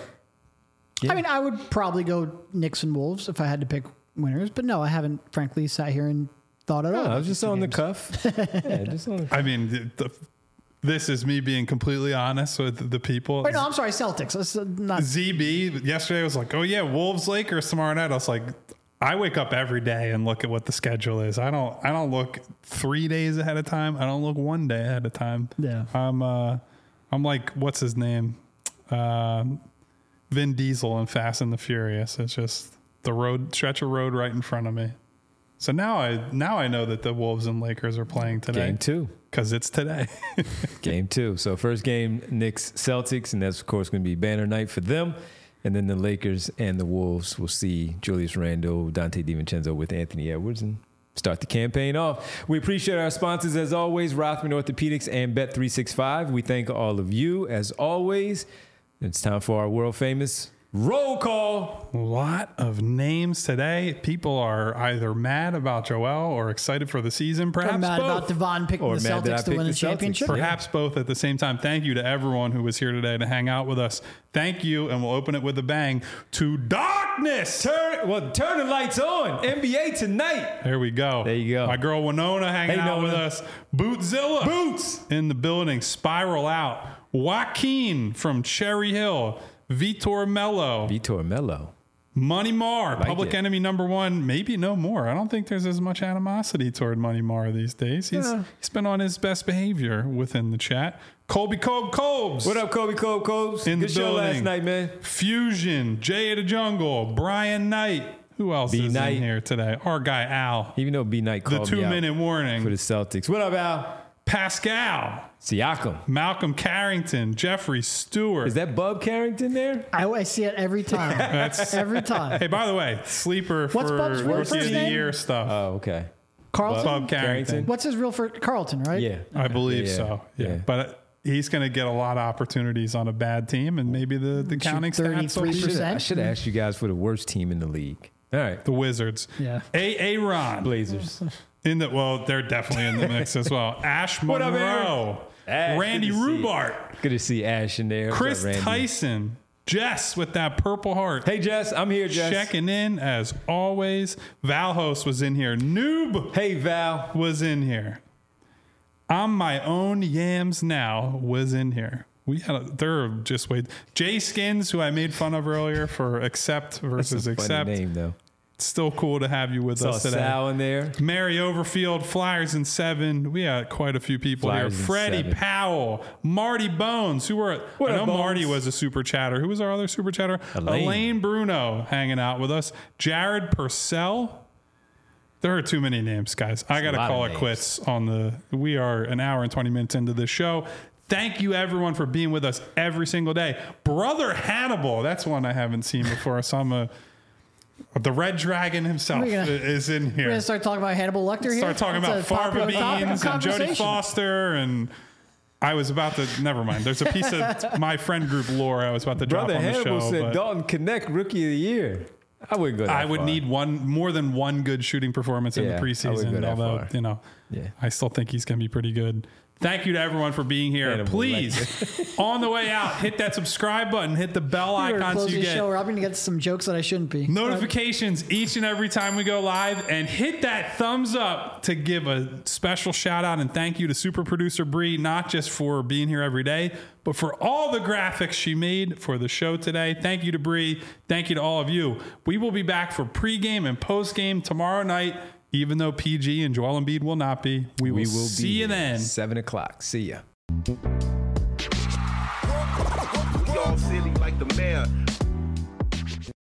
I mean, I would probably go Knicks and Wolves if I had to pick winners, but no, I haven't frankly sat here and thought at all. no, I about was just these on the games. cuff. Yeah, just on the I mean, the, the, this is me being completely honest with the people. Wait, no, I'm sorry, Celtics. Let's uh, not. Z B yesterday was like, oh yeah, Wolves Lakers tomorrow night. I was like, I wake up every day and look at what the schedule is. I don't I don't look three days ahead of time. I don't look one day ahead of time. Yeah. I'm uh I'm like, what's his name? Um Vin Diesel in Fast and the Furious. It's just the road stretch of road right in front of me. So now I now I know that the Wolves and Lakers are playing today. game two. Because it's today. Game two. So first game, Knicks Celtics, and that's of course going to be banner night for them. And then the Lakers and the Wolves will see Julius Randle, Dante DiVincenzo with Anthony Edwards and start the campaign off. We appreciate our sponsors as always, Rothman Orthopedics and Bet three sixty-five. We thank all of you as always. It's time for our world famous Roll call. A lot of names today. People are either mad about Joel or excited for the season. Perhaps I'm mad both. about Devon picking Or the mad that I Celtics to picked win the the Celtics. championship. Perhaps both at the same time. Thank you to everyone who was here today to hang out with us. Thank you, and we'll open it with a bang to darkness. Turn well, turn the lights on. N B A tonight. There we go. There you go. My girl Winona hanging Hey, out Nona. with us. Bootzilla. Boots. In the building. Spiral Out. Joaquin from Cherry Hill. Vitor Mello. Vitor Mello. Money Mar, Like public it. enemy number one, maybe no more. I don't think there's as much animosity toward Money Mar these days. He's Yeah. he's been on his best behavior within the chat. Colby Cobe Cobes. What up, Kobe Kobe Cobes? In Good the show last building. night, man. Fusion, Jay of the Jungle, Brian Knight. Who else B. is Knight. in here today? Our guy Al. Even though B Knight The called two me out minute for the warning. Celtics. What up, Al? Pascal, Siakam. Malcolm Carrington, Jeffrey Stewart. Is that Bub Carrington there? I, I see it every time. That's every time. Hey, by the way, sleeper What's for Bub's real Rookie first of the name? Year stuff. Oh, okay. Carlton? Bub Carrington. What's his real first? Carlton, right? Yeah. I believe Yeah, so. Yeah. yeah. But he's going to get a lot of opportunities on a bad team, and maybe the, the counting stats will be thirty-three percent. I should have asked you guys for the worst team in the league. All right. the Wizards. Yeah. A. A. Ron. Blazers. In the, well, they're definitely in the mix as well. Ash What up, Monroe. Ash, Randy good to see you. Rubart. Good to see Ash in there. What's Chris up, Randy? Tyson. Jess with that purple heart. Hey, Jess. I'm here, Jess. Checking in as always. Valhos was in here. Noob Hey, Val. was in here. I'm my own yams now was in here. We had a, they're just wait. Jay Skins, who I made fun of earlier for accept versus That's a funny accept. name, though. Still cool to have you with Saw us today. Sal in there. Mary Overfield, Flyers in seven. We had quite a few people Flyers here. in Freddie seven. Powell, Marty Bones, who were What I up, know Bones? Marty was a super chatter. Who was our other super chatter? Elaine. Elaine Bruno hanging out with us. Jared Purcell. There are too many names, guys. I got to lot call of it names. quits on the. We are an hour and twenty minutes into this show. Thank you, everyone, for being with us every single day. Brother Hannibal, that's one I haven't seen before. So I'm a. The Red Dragon himself We're gonna- is in here. We're going to start talking about Hannibal Lecter here. Start talking That's about a popular Farva topic of Beans and Jodie conversation. Foster, and I was about to. Never mind. There's a piece of my friend group lore I was about to drop Brother on the Hannibal show. said but Dalton Connect Rookie of the Year. I wouldn't go that I would far. need one more than one good shooting performance in Yeah, the I wouldn't go preseason. that Although far. you know, Yeah. I still think he's going to be pretty good. Thank you to everyone for being here. Hannibal Please, on the way out, hit that subscribe button, hit the bell We're icon so closing you the show. get We're going to get some jokes that I shouldn't be. notifications each and every time we go live, and hit that thumbs up to give a special shout out and thank you to super producer Bree, not just for being here every day, but for all the graphics she made for the show today. Thank you to Bree. Thank you to all of you. We will be back for pregame and postgame tomorrow night, even though P G and Joel Embiid will not be. We will, We will see be you here. then. Seven o'clock. See ya. We all silly like the mayor.